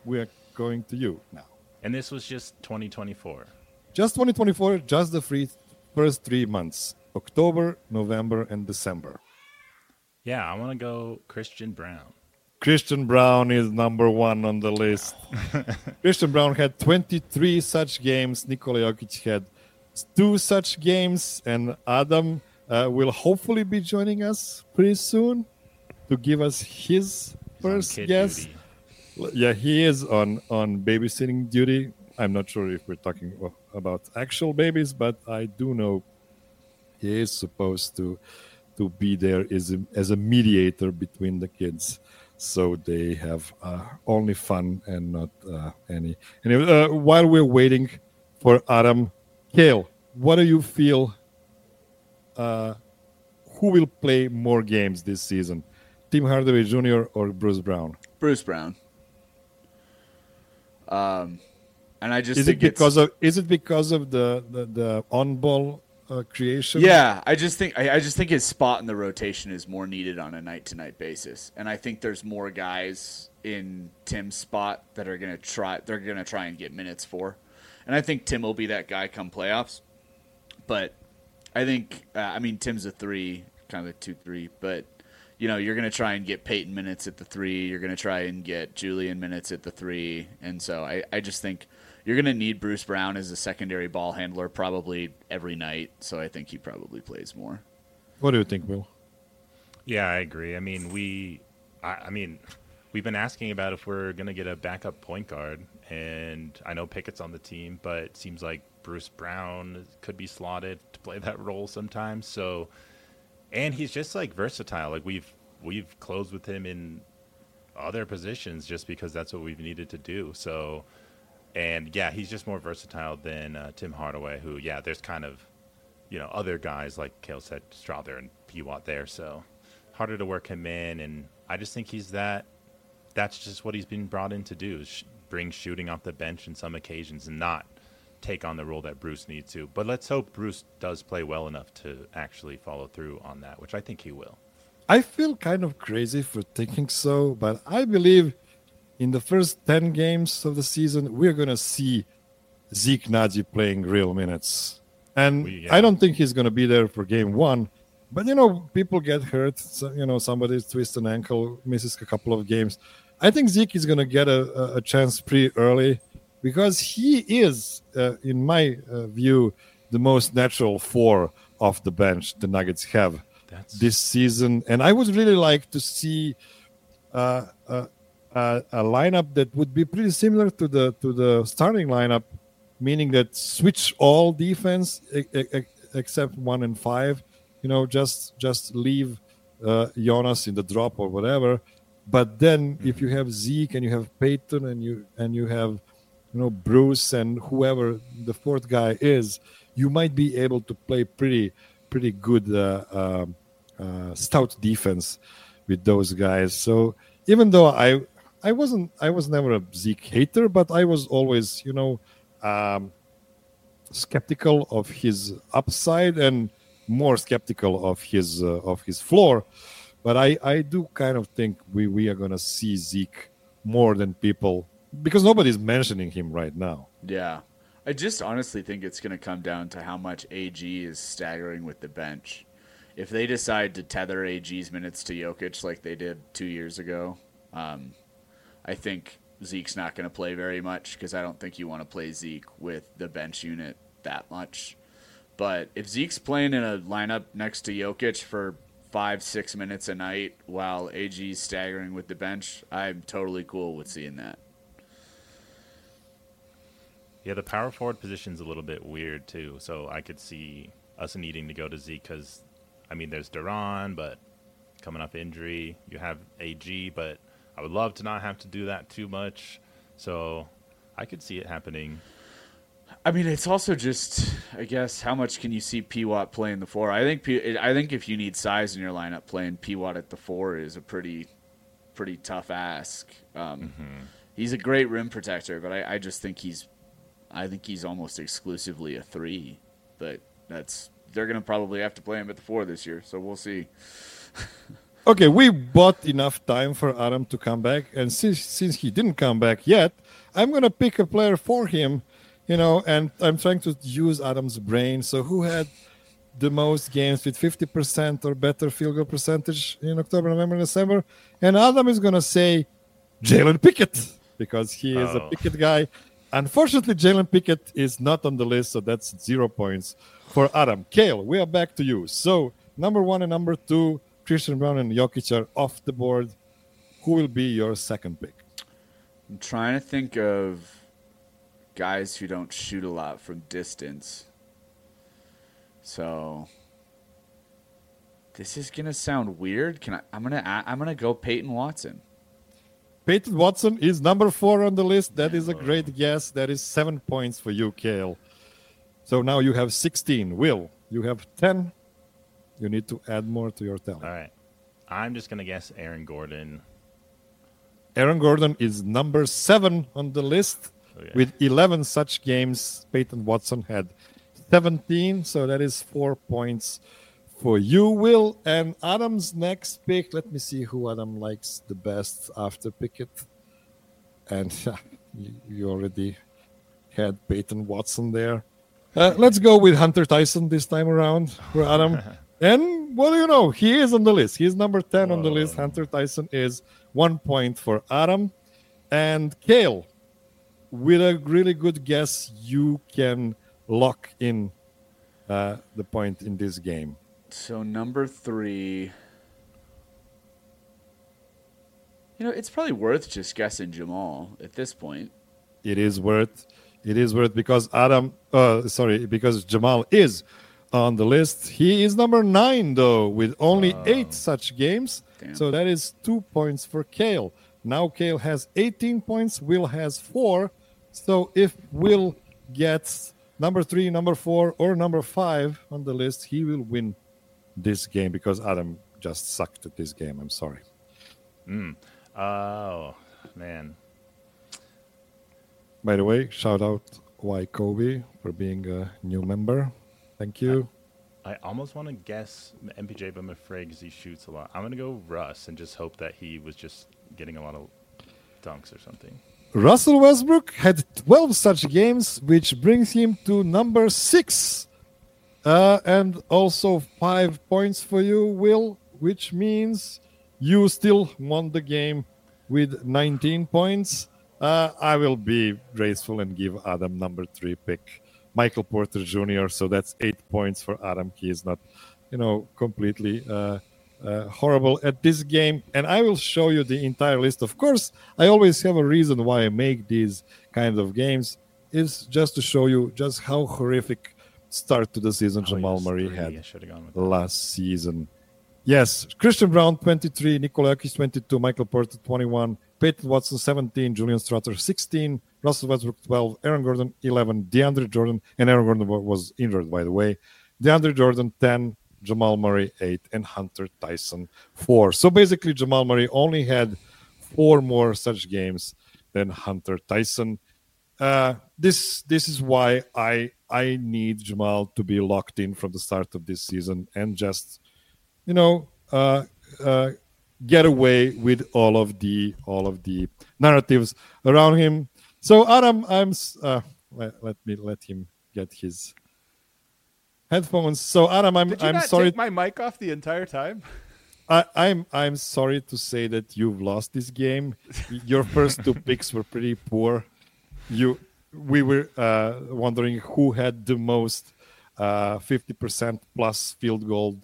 we're going to you now. And this was just 2024. Just 2024, just the first 3 months, October, November, and December. Yeah, I want to go Christian Braun. Christian Braun is number one on the list. Christian Braun had 23 such games. Nikola Jokic had 2 such games. And Adam will hopefully be joining us pretty soon to give us his first guess. Duty. Yeah, he is on babysitting duty. I'm not sure if we're talking about actual babies, but I do know he is supposed to be there as a mediator between the kids, so they have only fun and not any. Anyway, while we're waiting for Adam, Kale, what do you feel? Who will play more games this season, Tim Hardaway Jr. or Bruce Brown? Bruce Brown. And I just is think it because of the on ball creation? Yeah, I just think his spot in the rotation is more needed on a night to night basis, and I think there's more guys in Tim's spot that are gonna try and get minutes for, and I think Tim will be that guy come playoffs. But I think Tim's a 3, kind of a 2-3, but you're going to try and get Peyton minutes at the 3. You're going to try and get Julian minutes at the 3. And so I just think you're going to need Bruce Brown as a secondary ball handler probably every night. So I think he probably plays more. What do you think, Will? Yeah, I agree. I mean, we've been asking about if we're going to get a backup point guard. And I know Pickett's on the team, but it seems like Bruce Brown could be slotted to play that role sometimes. So... And he's just like versatile. Like we've closed with him in other positions just because that's what we've needed to do. So, and yeah, he's just more versatile than Tim Hardaway, who there's kind of other guys like Kale said, Strawther and Pewatt there. So harder to work him in, and I just think that's just what he's been brought in to do, is bring shooting off the bench in some occasions and not take on the role that Bruce needs to. But let's hope Bruce does play well enough to actually follow through on that, which I think he will. I feel kind of crazy for thinking so, but I believe in the first 10 games of the season, we're going to see Zeke Naji playing real minutes. And I don't think he's going to be there for game 1. But, people get hurt. So, somebody twists an ankle, misses a couple of games. I think Zeke is going to get a chance pretty early, because he is, in my view, the most natural 4 off the bench the Nuggets have this season. And I would really like to see a lineup that would be pretty similar to the starting lineup, meaning that switch all defense except 1 and 5. Just leave Jonas in the drop or whatever. But then if you have Zeke and you have Peyton and you have Bruce and whoever the 4th guy is, you might be able to play pretty good stout defense with those guys. So even though I was never a Zeke hater, but I was always skeptical of his upside and more skeptical of his floor. But I do kind of think we are gonna see Zeke more than people, because nobody's mentioning him right now. Yeah. I just honestly think it's going to come down to how much AG is staggering with the bench. If they decide to tether AG's minutes to Jokic like they did 2 years ago, I think Zeke's not going to play very much, because I don't think you want to play Zeke with the bench unit that much. But if Zeke's playing in a lineup next to Jokic for 5-6 minutes a night while AG's staggering with the bench, I'm totally cool with seeing that. Yeah, the power forward position's a little bit weird, too. So I could see us needing to go to Zeke because, there's Duran, but coming off injury. You have AG, but I would love to not have to do that too much. So I could see it happening. It's also just, I guess, how much can you see Pewatt playing the 4? I think if you need size in your lineup, playing Pewatt at the 4 is a pretty tough ask. He's a great rim protector, but I just think he's almost exclusively a 3, but they're going to probably have to play him at the 4 this year, so we'll see. Okay, we bought enough time for Adam to come back, and since he didn't come back yet, I'm gonna pick a player for him, and I'm trying to use Adam's brain. So who had the most games with 50% or better field goal percentage in October, November, December? And Adam is gonna say Jalen Pickett because he is a Pickett guy. Unfortunately, Jalen Pickett is not on the list, so that's 0 points for Adam. Kale, we are back to you. So number 1 and number 2, Christian Brown and Jokic are off the board. Who will be your second pick? I'm trying to think of guys who don't shoot a lot from distance. So this is gonna sound weird. I'm gonna go Peyton Watson. Peyton Watson is number 4 on the list. That is a great guess. That is 7 points for you, Kale. So now you have 16. Will, you have 10. You need to add more to your tally. All right. I'm just going to guess Aaron Gordon. Aaron Gordon is number 7 on the list. Okay. With 11 such games. Peyton Watson had 17. So that is 4 points for you, Will. And Adam's next pick. Let me see who Adam likes the best after Pickett. And you already had Peyton Watson there. Let's go with Hunter Tyson this time around for Adam. And what do you know? He is on the list. He's number 10 on the list. Hunter Tyson is 1 point for Adam. And Kale, with a really good guess, you can lock in the point in this game. So number 3. It's probably worth just guessing Jamal at this point. It is worth because because Jamal is on the list. He is number 9 though, with only 8 such games. Damn. So that is 2 points for Kale. Now Kale has 18 points. Will has 4. So if Will gets number 3, number 4, or number 5 on the list, he will win this game because Adam just sucked at this game. I'm sorry. Oh, man. By the way, shout out Y Kobe for being a new member. Thank you. I almost want to guess MPJ, but I'm afraid because he shoots a lot. I'm going to go Russ and just hope that he was just getting a lot of dunks or something. Russell Westbrook had 12 such games, which brings him to number 6. And also 5 points for you, Will, which means you still won the game with 19 points. I will be graceful and give Adam number 3 pick, Michael Porter Jr. So that's 8 points for Adam. He is not, completely horrible at this game. And I will show you the entire list. Of course, I always have a reason why I make these kind of games. Is just to show you just how horrific start to the season Jamal Murray had last season. Yes, Christian Brown 23, Nikola Jokic 22, Michael Porter 21, Peyton Watson 17, Julian Strouter 16, Russell Westbrook 12, Aaron Gordon 11, DeAndre Jordan, and Aaron Gordon was injured, by the way. DeAndre Jordan 10, Jamal Murray 8, and Hunter Tyson 4. So basically, Jamal Murray only had 4 more such games than Hunter Tyson. This is why I need Jamal to be locked in from the start of this season and just get away with all of the narratives around him. So Adam, let him get his headphones. So Adam, Did you I'm not sorry. take my mic off the entire time? I'm sorry to say that you've lost this game. Your first 2 picks were pretty poor. We were wondering who had the most 50% plus field goal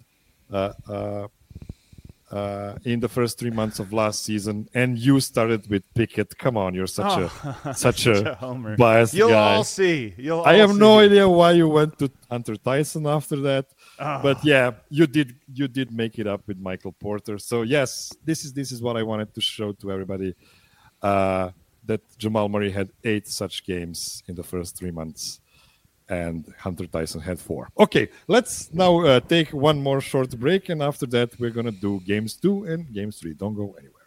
in the first 3 months of last season, and you started with Pickett. Come on, you're such a homer. biased You'll guy. all see. I have no idea why you went to Hunter Tyson after that, but yeah, you did make it up with Michael Porter. So yes, this is what I wanted to show to everybody. That Jamal Murray had 8 such games in the first 3 months, and Hunter Tyson had 4. Okay, let's now take one more short break, and after that, we're going to do games 2 and games 3. Don't go anywhere.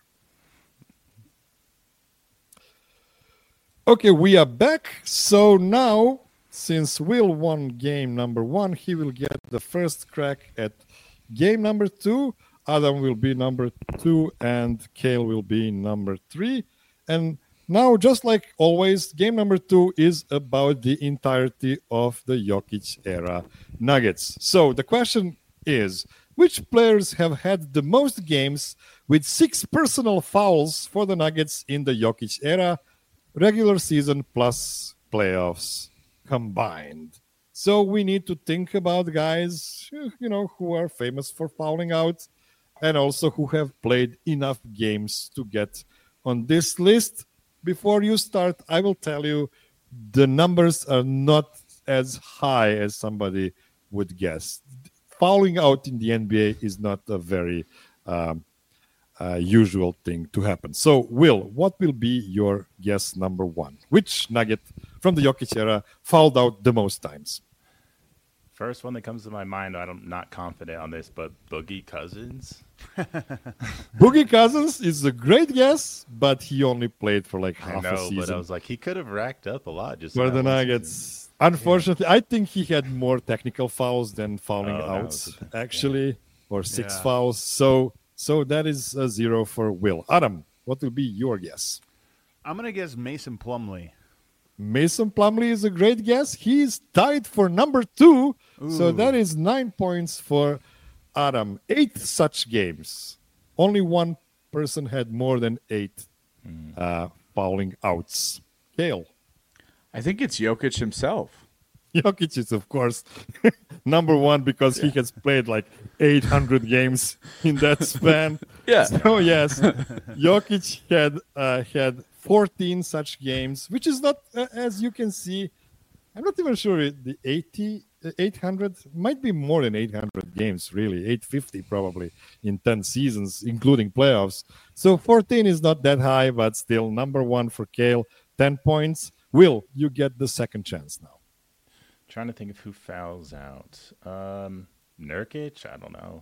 Okay, we are back. So now, since Will won game number 1, he will get the first crack at game number 2. Adam will be number 2, and Kale will be number 3. And now, just like always, game number 2 is about the entirety of the Jokic era Nuggets. So the question is, which players have had the most games with 6 personal fouls for the Nuggets in the Jokic era, regular season plus playoffs combined? So we need to think about guys, who are famous for fouling out and also who have played enough games to get on this list. Before you start, I will tell you the numbers are not as high as somebody would guess. Fouling out in the NBA is not a very usual thing to happen. So, Will, what will be your guess number 1? Which Nugget from the Jokic era fouled out the most times? First one that comes to my mind, I'm not confident on this, but Boogie Cousins. Boogie Cousins is a great guess, but he only played for like half a season. But I was like, he could have racked up a lot just for the Nuggets. Season. Unfortunately, I think he had more technical fouls than fouling outs, actually, or 6 fouls. So that is a 0 for Will. Adam, what will be your guess? I'm going to guess Mason Plumlee. Mason Plumlee is a great guess. He's tied for number 2. So that is 9 points for Adam. 8 such games. Only one person had more than 8 fouling outs. Kale. I think it's Jokic himself. Jokic is, of course, number 1 because he has played like 800 games in that span. Yeah. So, yes, Jokic had 14 such games, which is not, as you can see, I'm not even sure the 800 might be more than 800 games, really, 850 probably in 10 seasons, including playoffs. So 14 is not that high, but still number 1 for Kale, 10 points. Will, you get the second chance now. Trying to think of who fouls out. Nurkic? I don't know.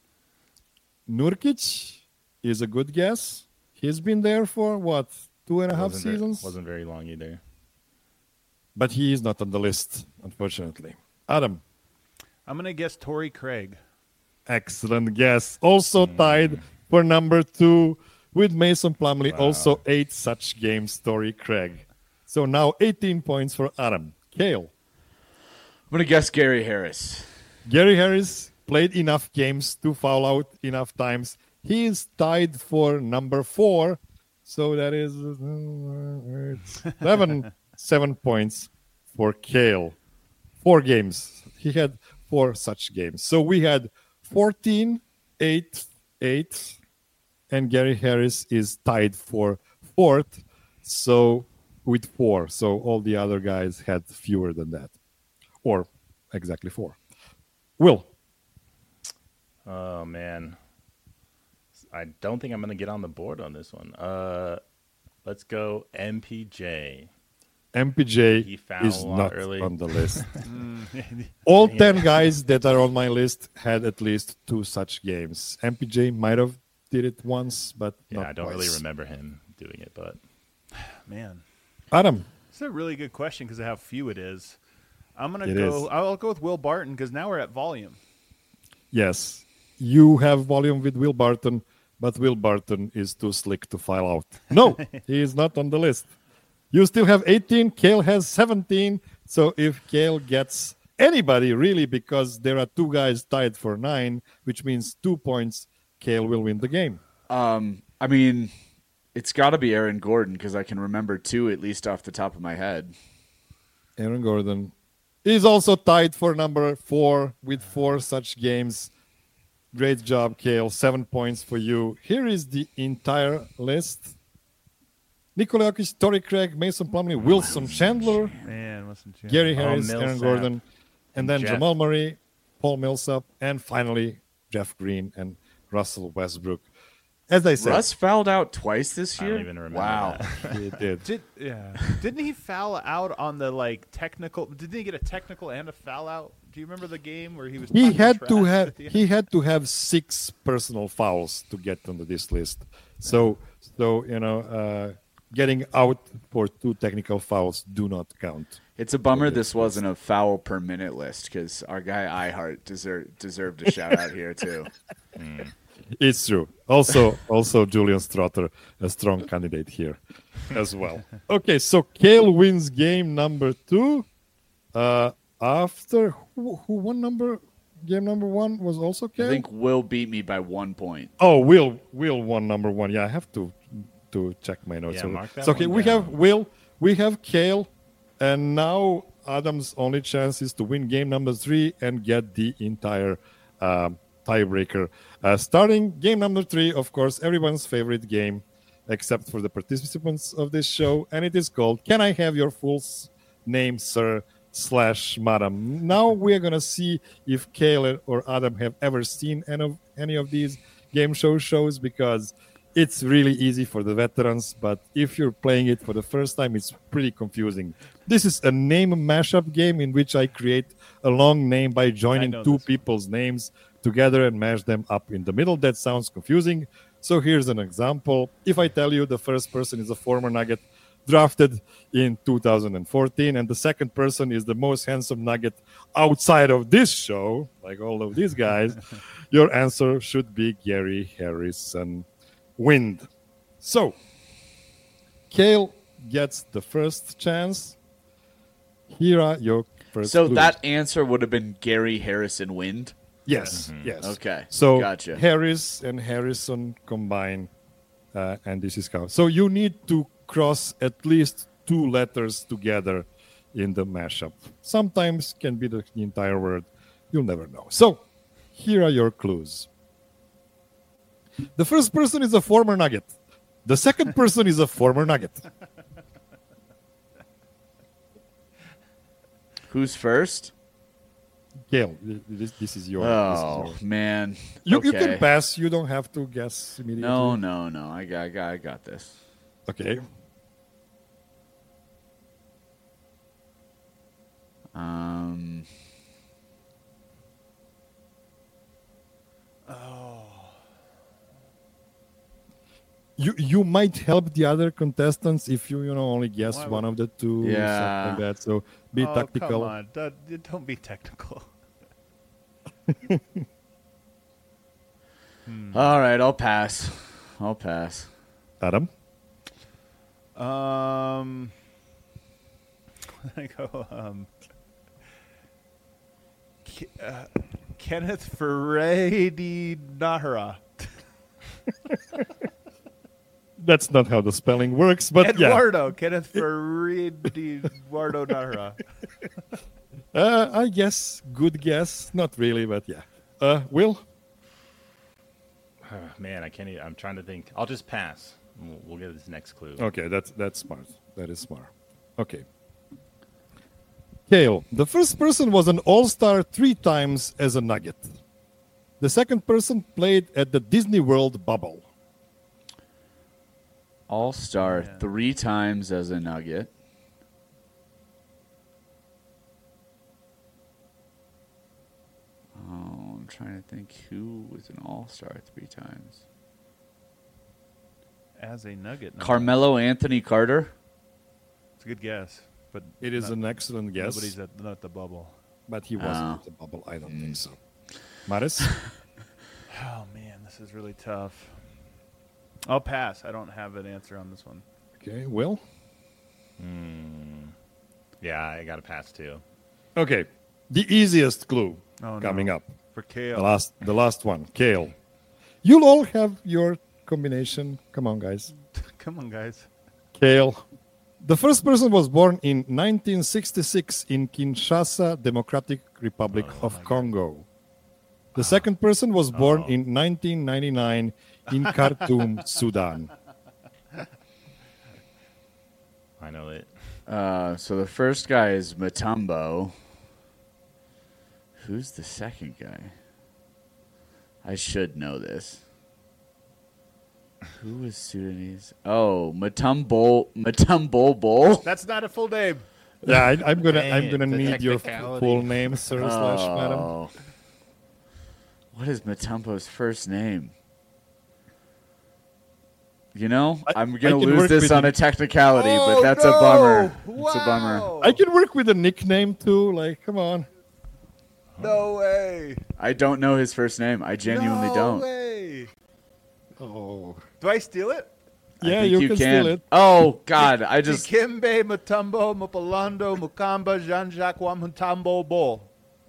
Nurkic is a good guess. He's been there for, 2.5 seasons? Wasn't very long either. But he is not on the list, unfortunately. Adam. I'm going to guess Torrey Craig. Excellent guess. Also tied for number 2 with Mason Plumlee. Wow. Also 8 such games, Torrey Craig. So now 18 points for Adam. Kale. I'm going to guess Gary Harris. Gary Harris played enough games to foul out enough times. He is tied for number 4. So that is 7 points for Kale. 4 games. He had 4 such games. So we had 14, 8, 8, and Gary Harris is tied for 4th. So with 4. So all the other guys had fewer than that. Or exactly 4. Will. Oh, man. I don't think I'm going to get on the board on this one. Let's go MPJ. MPJ is not early on the list. All 10 guys that are on my list had at least 2 such games. MPJ might have did it once, but not I don't twice. really remember him doing it, but man, Adam. It's a really good question because of how few it is. I'll go with Will Barton because now we're at volume. Yes, you have volume with Will Barton, but Will Barton is too slick to file out. No, he is not on the list. You still have 18. Kale has 17. So if Kale gets anybody, really, because there are 2 guys tied for 9, which means 2 points, Kale will win the game. I mean, it's got to be Aaron Gordon because I can remember 2 at least off the top of my head. Aaron Gordon is also tied for number 4 with 4 such games. Great job, Kale. 7 points for you. Here is the entire list. Nikola Jokic, Torrey Craig, Mason Plumlee, Wilson Chandler, Gary Harris, Aaron Gordon, and then Jamal Murray, Paul Millsap, and finally Jeff Green and Russell Westbrook. As I said, Russ fouled out twice this year. I don't even remember. Wow, that. He did. Didn't he foul out on the technical? Didn't he get a technical and a foul out? Do you remember the game where he was? He had to have 6 personal fouls to get onto this list. So getting out for 2 technical fouls do not count. It's a bummer this wasn't a foul per minute list because our guy Ihart deserved a shout out here too. It's true. Also Julian Strother, a strong candidate here as well. Okay, so Kale wins game number 2. After who won game number 1 was also Kale? I think Will beat me by 1 point. Oh, Will won number 1. Yeah, I have to check my notes. Yeah, So, mark that so okay, one we down. have Will, we have Kale, and now Adam's only chance is to win game number 3 and get the entire tiebreaker. Starting game number 3, of course, everyone's favorite game, except for the participants of this show, and it is called Can I Have Your Full Name, Sir / Madam? Now we're gonna see if Kale or Adam have ever seen any of these game shows, because it's really easy for the veterans, but if you're playing it for the first time, it's pretty confusing. This is a name mashup game in which I create a long name by joining know 2 this. people's names together and mash them up in the middle. That sounds confusing. So here's an example. If I tell you the first person is a former Nugget drafted in 2014, and the second person is the most handsome Nugget outside of this show, like all of these guys, your answer should be Gary Harrison Wind. So, Kale gets the first chance. Here are your first So clues. that answer would have been Gary Harrison Wind. Yes, yes. Okay, So gotcha. Harris and Harrison combine, and this is how. So you need to cross at least 2 letters together in the mashup. Sometimes can be the entire word. You'll never know. So here are your clues. The first person is a former Nugget. The second person is a former Nugget. Who's first? Gail, this is your. Oh this is yours. man, You okay. can pass. You don't have to guess immediately. No. I got this. Okay. You might help the other contestants if you only guess Why one of the 2, Yeah. something like that. So be Oh, tactical. come on. Don't be technical. All right, I'll pass. Adam, I go. Kenneth Ferredi Nahara. that's not how the spelling works, but yeah. Eduardo. Kenneth Ferredi Eduardo Nahara. I guess good guess. Not really, but yeah. Will? Man, I can't. I'm trying to think. I'll just pass. We'll get this next clue. Okay, that's smart. That is smart. Okay. Kale, the first person was an all-star 3 times as a Nugget. The second person played at the Disney World bubble. All-star 3 times as a Nugget. Oh, I'm trying to think who was an all-star 3 times. As a Nugget. no. Carmelo Anthony Carter. It's a good guess, but It is an excellent guess, nobody's not the bubble. but he wasn't Oh. at the bubble. I don't think so. Maris? Oh man, this is really tough. I'll pass. I don't have an answer on this one. Okay, Will? Yeah, I got to pass too. Okay, the easiest clue Oh, coming no. up. For The Kale. last one, Kale. You'll all have your combination. Come on, guys. Come on, guys. Kale. The first person was born in 1966 in Kinshasa, Democratic Republic of Congo. The second person was born in 1999 in Khartoum, Sudan. I know it. So the first guy is Mutombo. Who's the second guy? I should know this. Who was Sudanese? Oh, Mutombo. That's not a full name. Yeah, I'm gonna The need your technicality. full name, sir / madam. Oh. What is Mutombo's first name? You know, I'm I gonna can lose work this with on you. a technicality, Oh, but that's a no! bummer. Wow. It's a bummer. I can work with a nickname too. Like, come on. No way. I don't know his first name. I genuinely no don't. way. Oh. Do I steal it? Yeah, I think you can steal it. Oh God, I just Dikembe Mutombo Mupalando Mukamba Jean-Jacques Wamutombo Bo.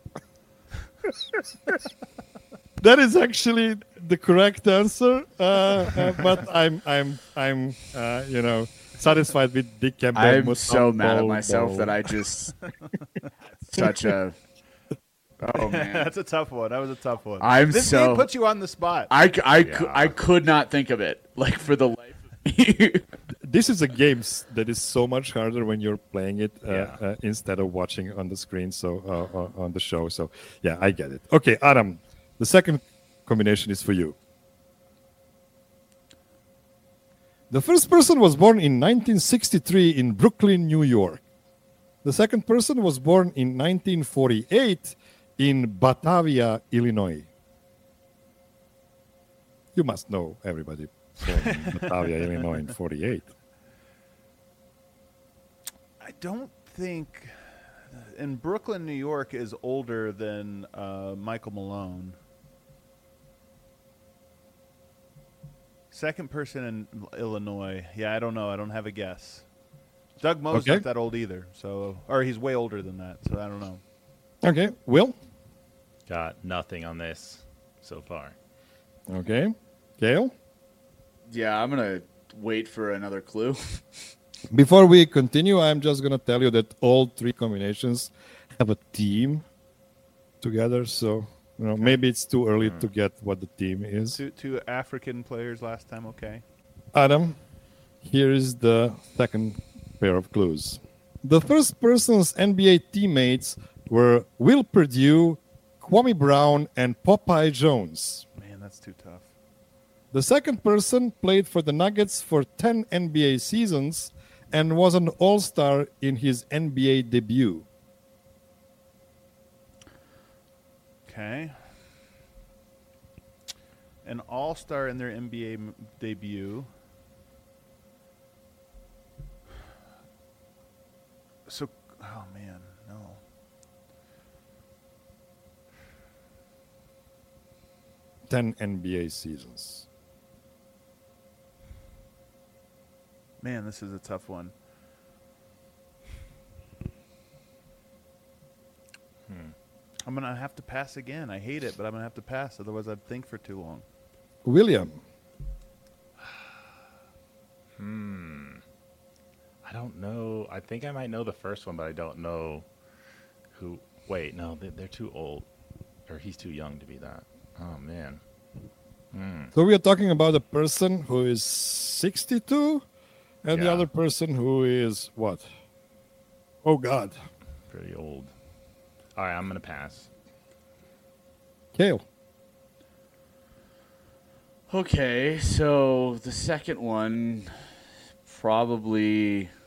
That is actually the correct answer, but I'm satisfied with Dikembe I'm so Mutombo mad at myself Bo. that I just such a. Oh man, That's a tough one. That was a tough one. I'm this so- game puts you on the spot. I could not think of it like for the life of me. This is a game that is so much harder when you're playing it Yeah. instead of watching on the screen, so on the show. So yeah, I get it. Okay, Adam, the second combination is for you. The first person was born in 1963 in Brooklyn, New York. The second person was born in 1948 in Batavia, Illinois. You must know everybody born in Batavia, Illinois in 48. I don't think. And Brooklyn, New York is older than Michael Malone. Second person in Illinois. Yeah, I don't know. I don't have a guess. Doug Moe's Okay. not that old either. Or he's way older than that. So I don't know. Okay, Will? Got nothing on this so far. Okay. Gail? Yeah, I'm gonna wait for another clue. Before we continue, I'm just going to tell you that all three combinations have a team together. So, maybe it's too early to get what the team is. Two African players last time. Okay. Adam, here is the second pair of clues. The first person's NBA teammates were Will Perdue, Kwame Brown, and Popeye Jones. Man, that's too tough. The second person played for the Nuggets for 10 NBA seasons and was an All-Star in his NBA debut. Okay. An all-star in their NBA debut. So, oh man, no. Ten NBA seasons. Man, this is a tough one. I'm going to have to pass again. I hate it, but I'm going to have to pass. Otherwise, I'd think for too long. William. I don't know. I think I might know the first one, but I don't know who. Wait, no, they're too old. Or he's too young to be that. Oh, man. So we are talking about a person who is 62 and the Yeah. other person who is what? Oh, God. Pretty old. All right, I'm going to pass. Kale. Okay, so the second one probably.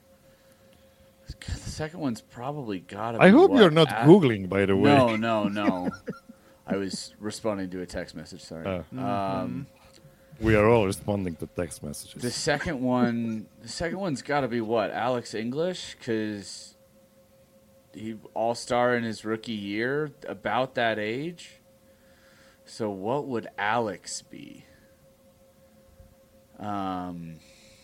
The second one's probably gotta be. I hope what? you're not Googling, by the way. No. I was responding to a text message. Sorry. We are all responding to text messages. The second one's got to be what? Alex English, because he all-star in his rookie year, about that age. So what would Alex be? I'm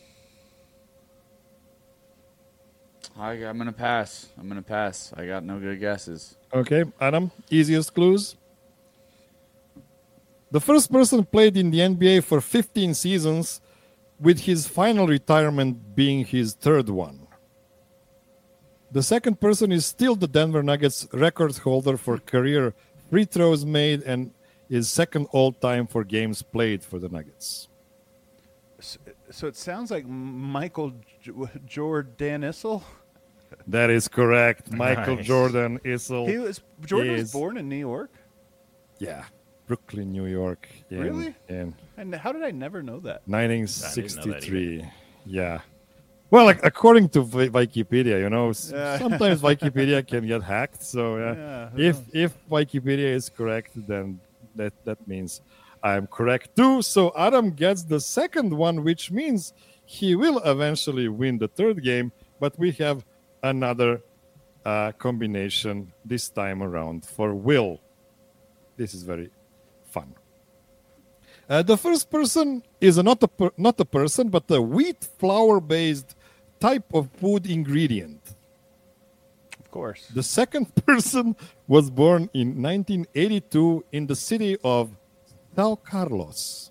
gonna pass. I got no good guesses. Okay, Adam, easiest clues. The first person played in the NBA for 15 seasons, with his final retirement being his third one. The second person is still the Denver Nuggets record holder for career free throws made and is second all-time for games played for the Nuggets. So it sounds like Michael Jordan Issel. That is correct. Michael Nice. Jordan Issel. Jordan was is- born in New York. Yeah, Brooklyn, New York. Really? In And how did I never know that? 1963. Yeah. Well, like, according to Wikipedia, sometimes Wikipedia can get hacked. So Yeah, if Wikipedia is correct, then that means I'm correct too. So Adam gets the second one, which means he will eventually win the third game. But we have another combination this time around for Will. This is very fun. The first person is not a person, but a wheat flour-based type of food ingredient. Of course. The second person was born in 1982 in the city of São Carlos.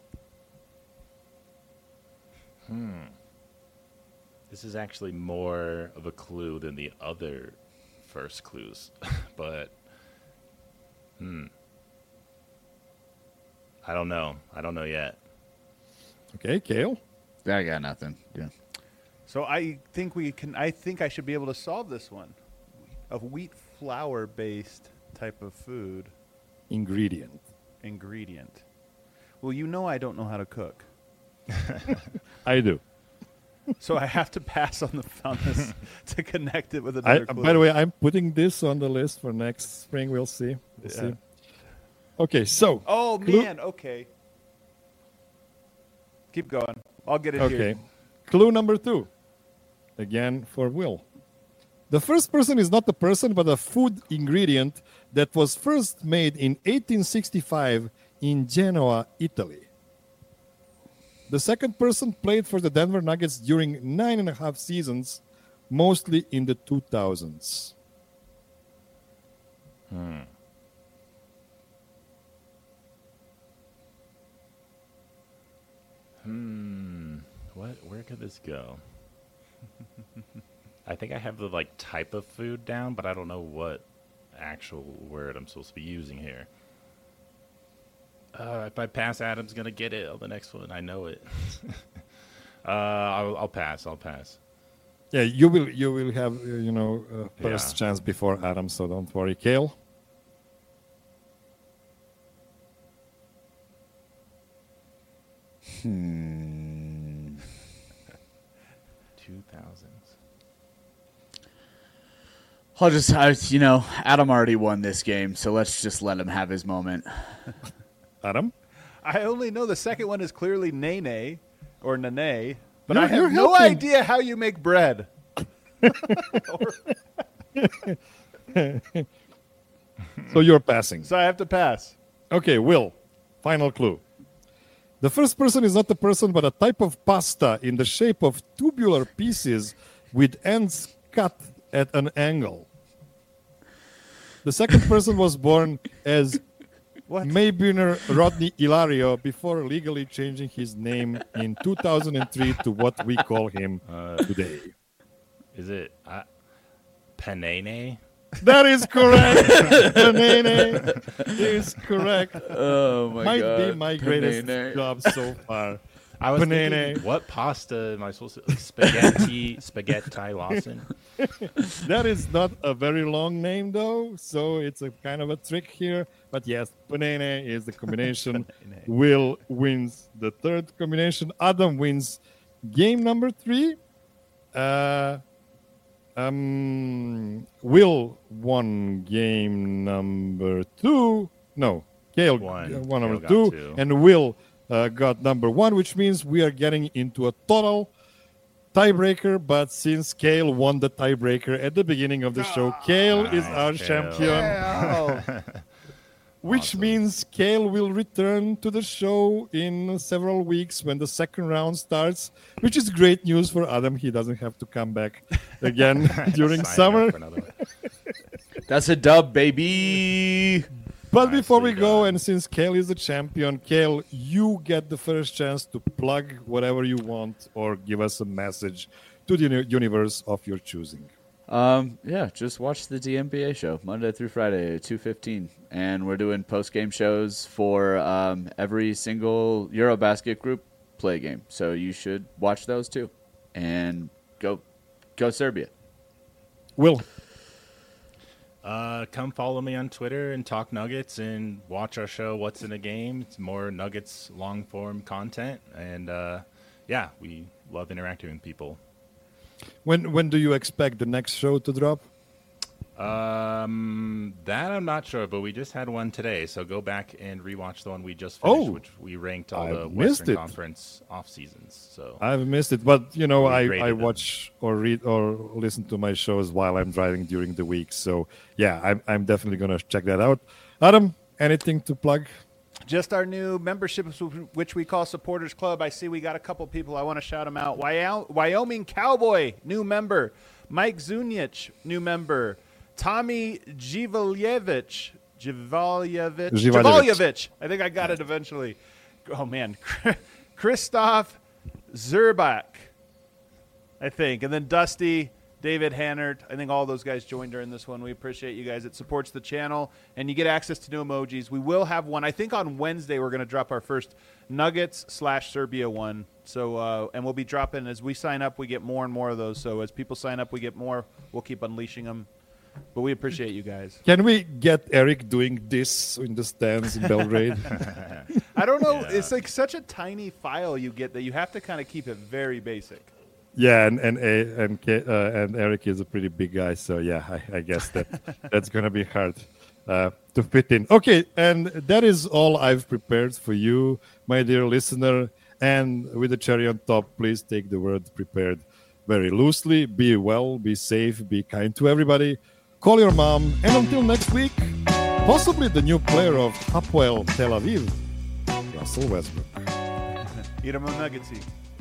This is actually more of a clue than the other first clues, but I don't know. I don't know yet. Okay, Kale. I got nothing. Yeah. So I think I should be able to solve this one. A wheat flour based type of food Ingredient. ingredient. Well, you know I don't know how to cook. I do. So I have to pass on this to connect it with another clue. By the way, I'm putting this on the list for next spring. We'll see. We'll see. Okay, so. Oh, man. Okay. Keep going. I'll get it here. Okay. Clue number 2. Again for Will. The first person is not a person, but a food ingredient that was first made in 1865 in Genoa, Italy. The second person played for the Denver Nuggets during 9.5 seasons, mostly in the 2000s. Where could this go? I think I have the type of food down, but I don't know what actual word I'm supposed to be using here. If I pass, Adam's gonna get it on the next one. I know it. I'll pass. I'll pass. Yeah, you will have first chance before Adam, so don't worry. Kale. Hmm. 2000s. Adam already won this game, so let's just let him have his moment. Adam? I only know the second one is clearly Nene or Nene, but You're I have no helping. idea how you make bread. So you're passing. So I have to pass. Okay, Will. Final clue. The first person is not a person, but a type of pasta in the shape of tubular pieces with ends cut at an angle. The second person was born as What? Maybinner Rodney Ilario before legally changing his name in 2003 to what we call him today. Is it Panene? That is correct. Panene is correct. Oh my Might god! be my greatest Panene. job so far. I was Panene. thinking, what pasta am I supposed to? Spaghetti Lawson. That is not a very long name, though, so it's a kind of a trick here. But yes, Panene is the combination. Will wins the third combination. Adam wins game number 3. Will won game number 2. No, Kale won number Kale got 2, two. and Will got number 1, which means we are getting into a total tiebreaker. But since Kale won the tiebreaker at the beginning of the show, Kale is our Kale. champion. Which means Kale will return to the show in several weeks when the second round starts, which is great news for Adam. He doesn't have to come back again during Sign up summer. for another one. That's a dub, baby. But before we Nicely go, done. and since Kale is the champion, Kale, you get the first chance to plug whatever you want or give us a message to the universe of your choosing. Just watch the DMBA show Monday through Friday at 2:15, and we're doing post-game shows for every single Eurobasket group play game. So you should watch those too, and go Serbia. Will. Come follow me on Twitter and talk Nuggets and watch our show What's in a Game. It's more Nuggets long form content, and we love interacting with people. When do you expect the next show to drop? That I'm not sure, but we just had one today, so go back and rewatch the one we just finished, which we ranked all the I've missed Western it. Conference off seasons. So I've missed it, but We I rated them. watch or read or listen to my shows while I'm driving during the week. So yeah, I'm definitely gonna check that out. Adam, anything to plug? Just our new memberships, which we call Supporters Club. I see we got a couple people. I want to shout them out. Wyoming Cowboy, new member. Mike Zunich, new member. Tommy Jivalyevich. I think I got it eventually. Oh, man. Christoph Zerbach, I think. And then Dusty, David Hannert. I think all those guys joined during this one. We appreciate you guys. It supports the channel, and you get access to new emojis. We will have one. I think on Wednesday we're going to drop our first Nuggets/Serbia one. So, and we'll be dropping as we sign up. We get more and more of those. So as people sign up, we get more. We'll keep unleashing them. But we appreciate you guys. Can we get Eric doing this in the stands in Belgrade? I don't know. Yeah. It's like such a tiny file you get that you have to kind of keep it very basic. Yeah, and Eric is a pretty big guy, so yeah, I guess that's gonna be hard to fit in. Okay, and that is all I've prepared for you, my dear listener. And with the cherry on top, please take the word "prepared" very loosely. Be well, be safe, be kind to everybody. Call your mom, and until next week, possibly the new player of Hapoel Tel Aviv, Russell Westbrook. Eat him a nuggetsy.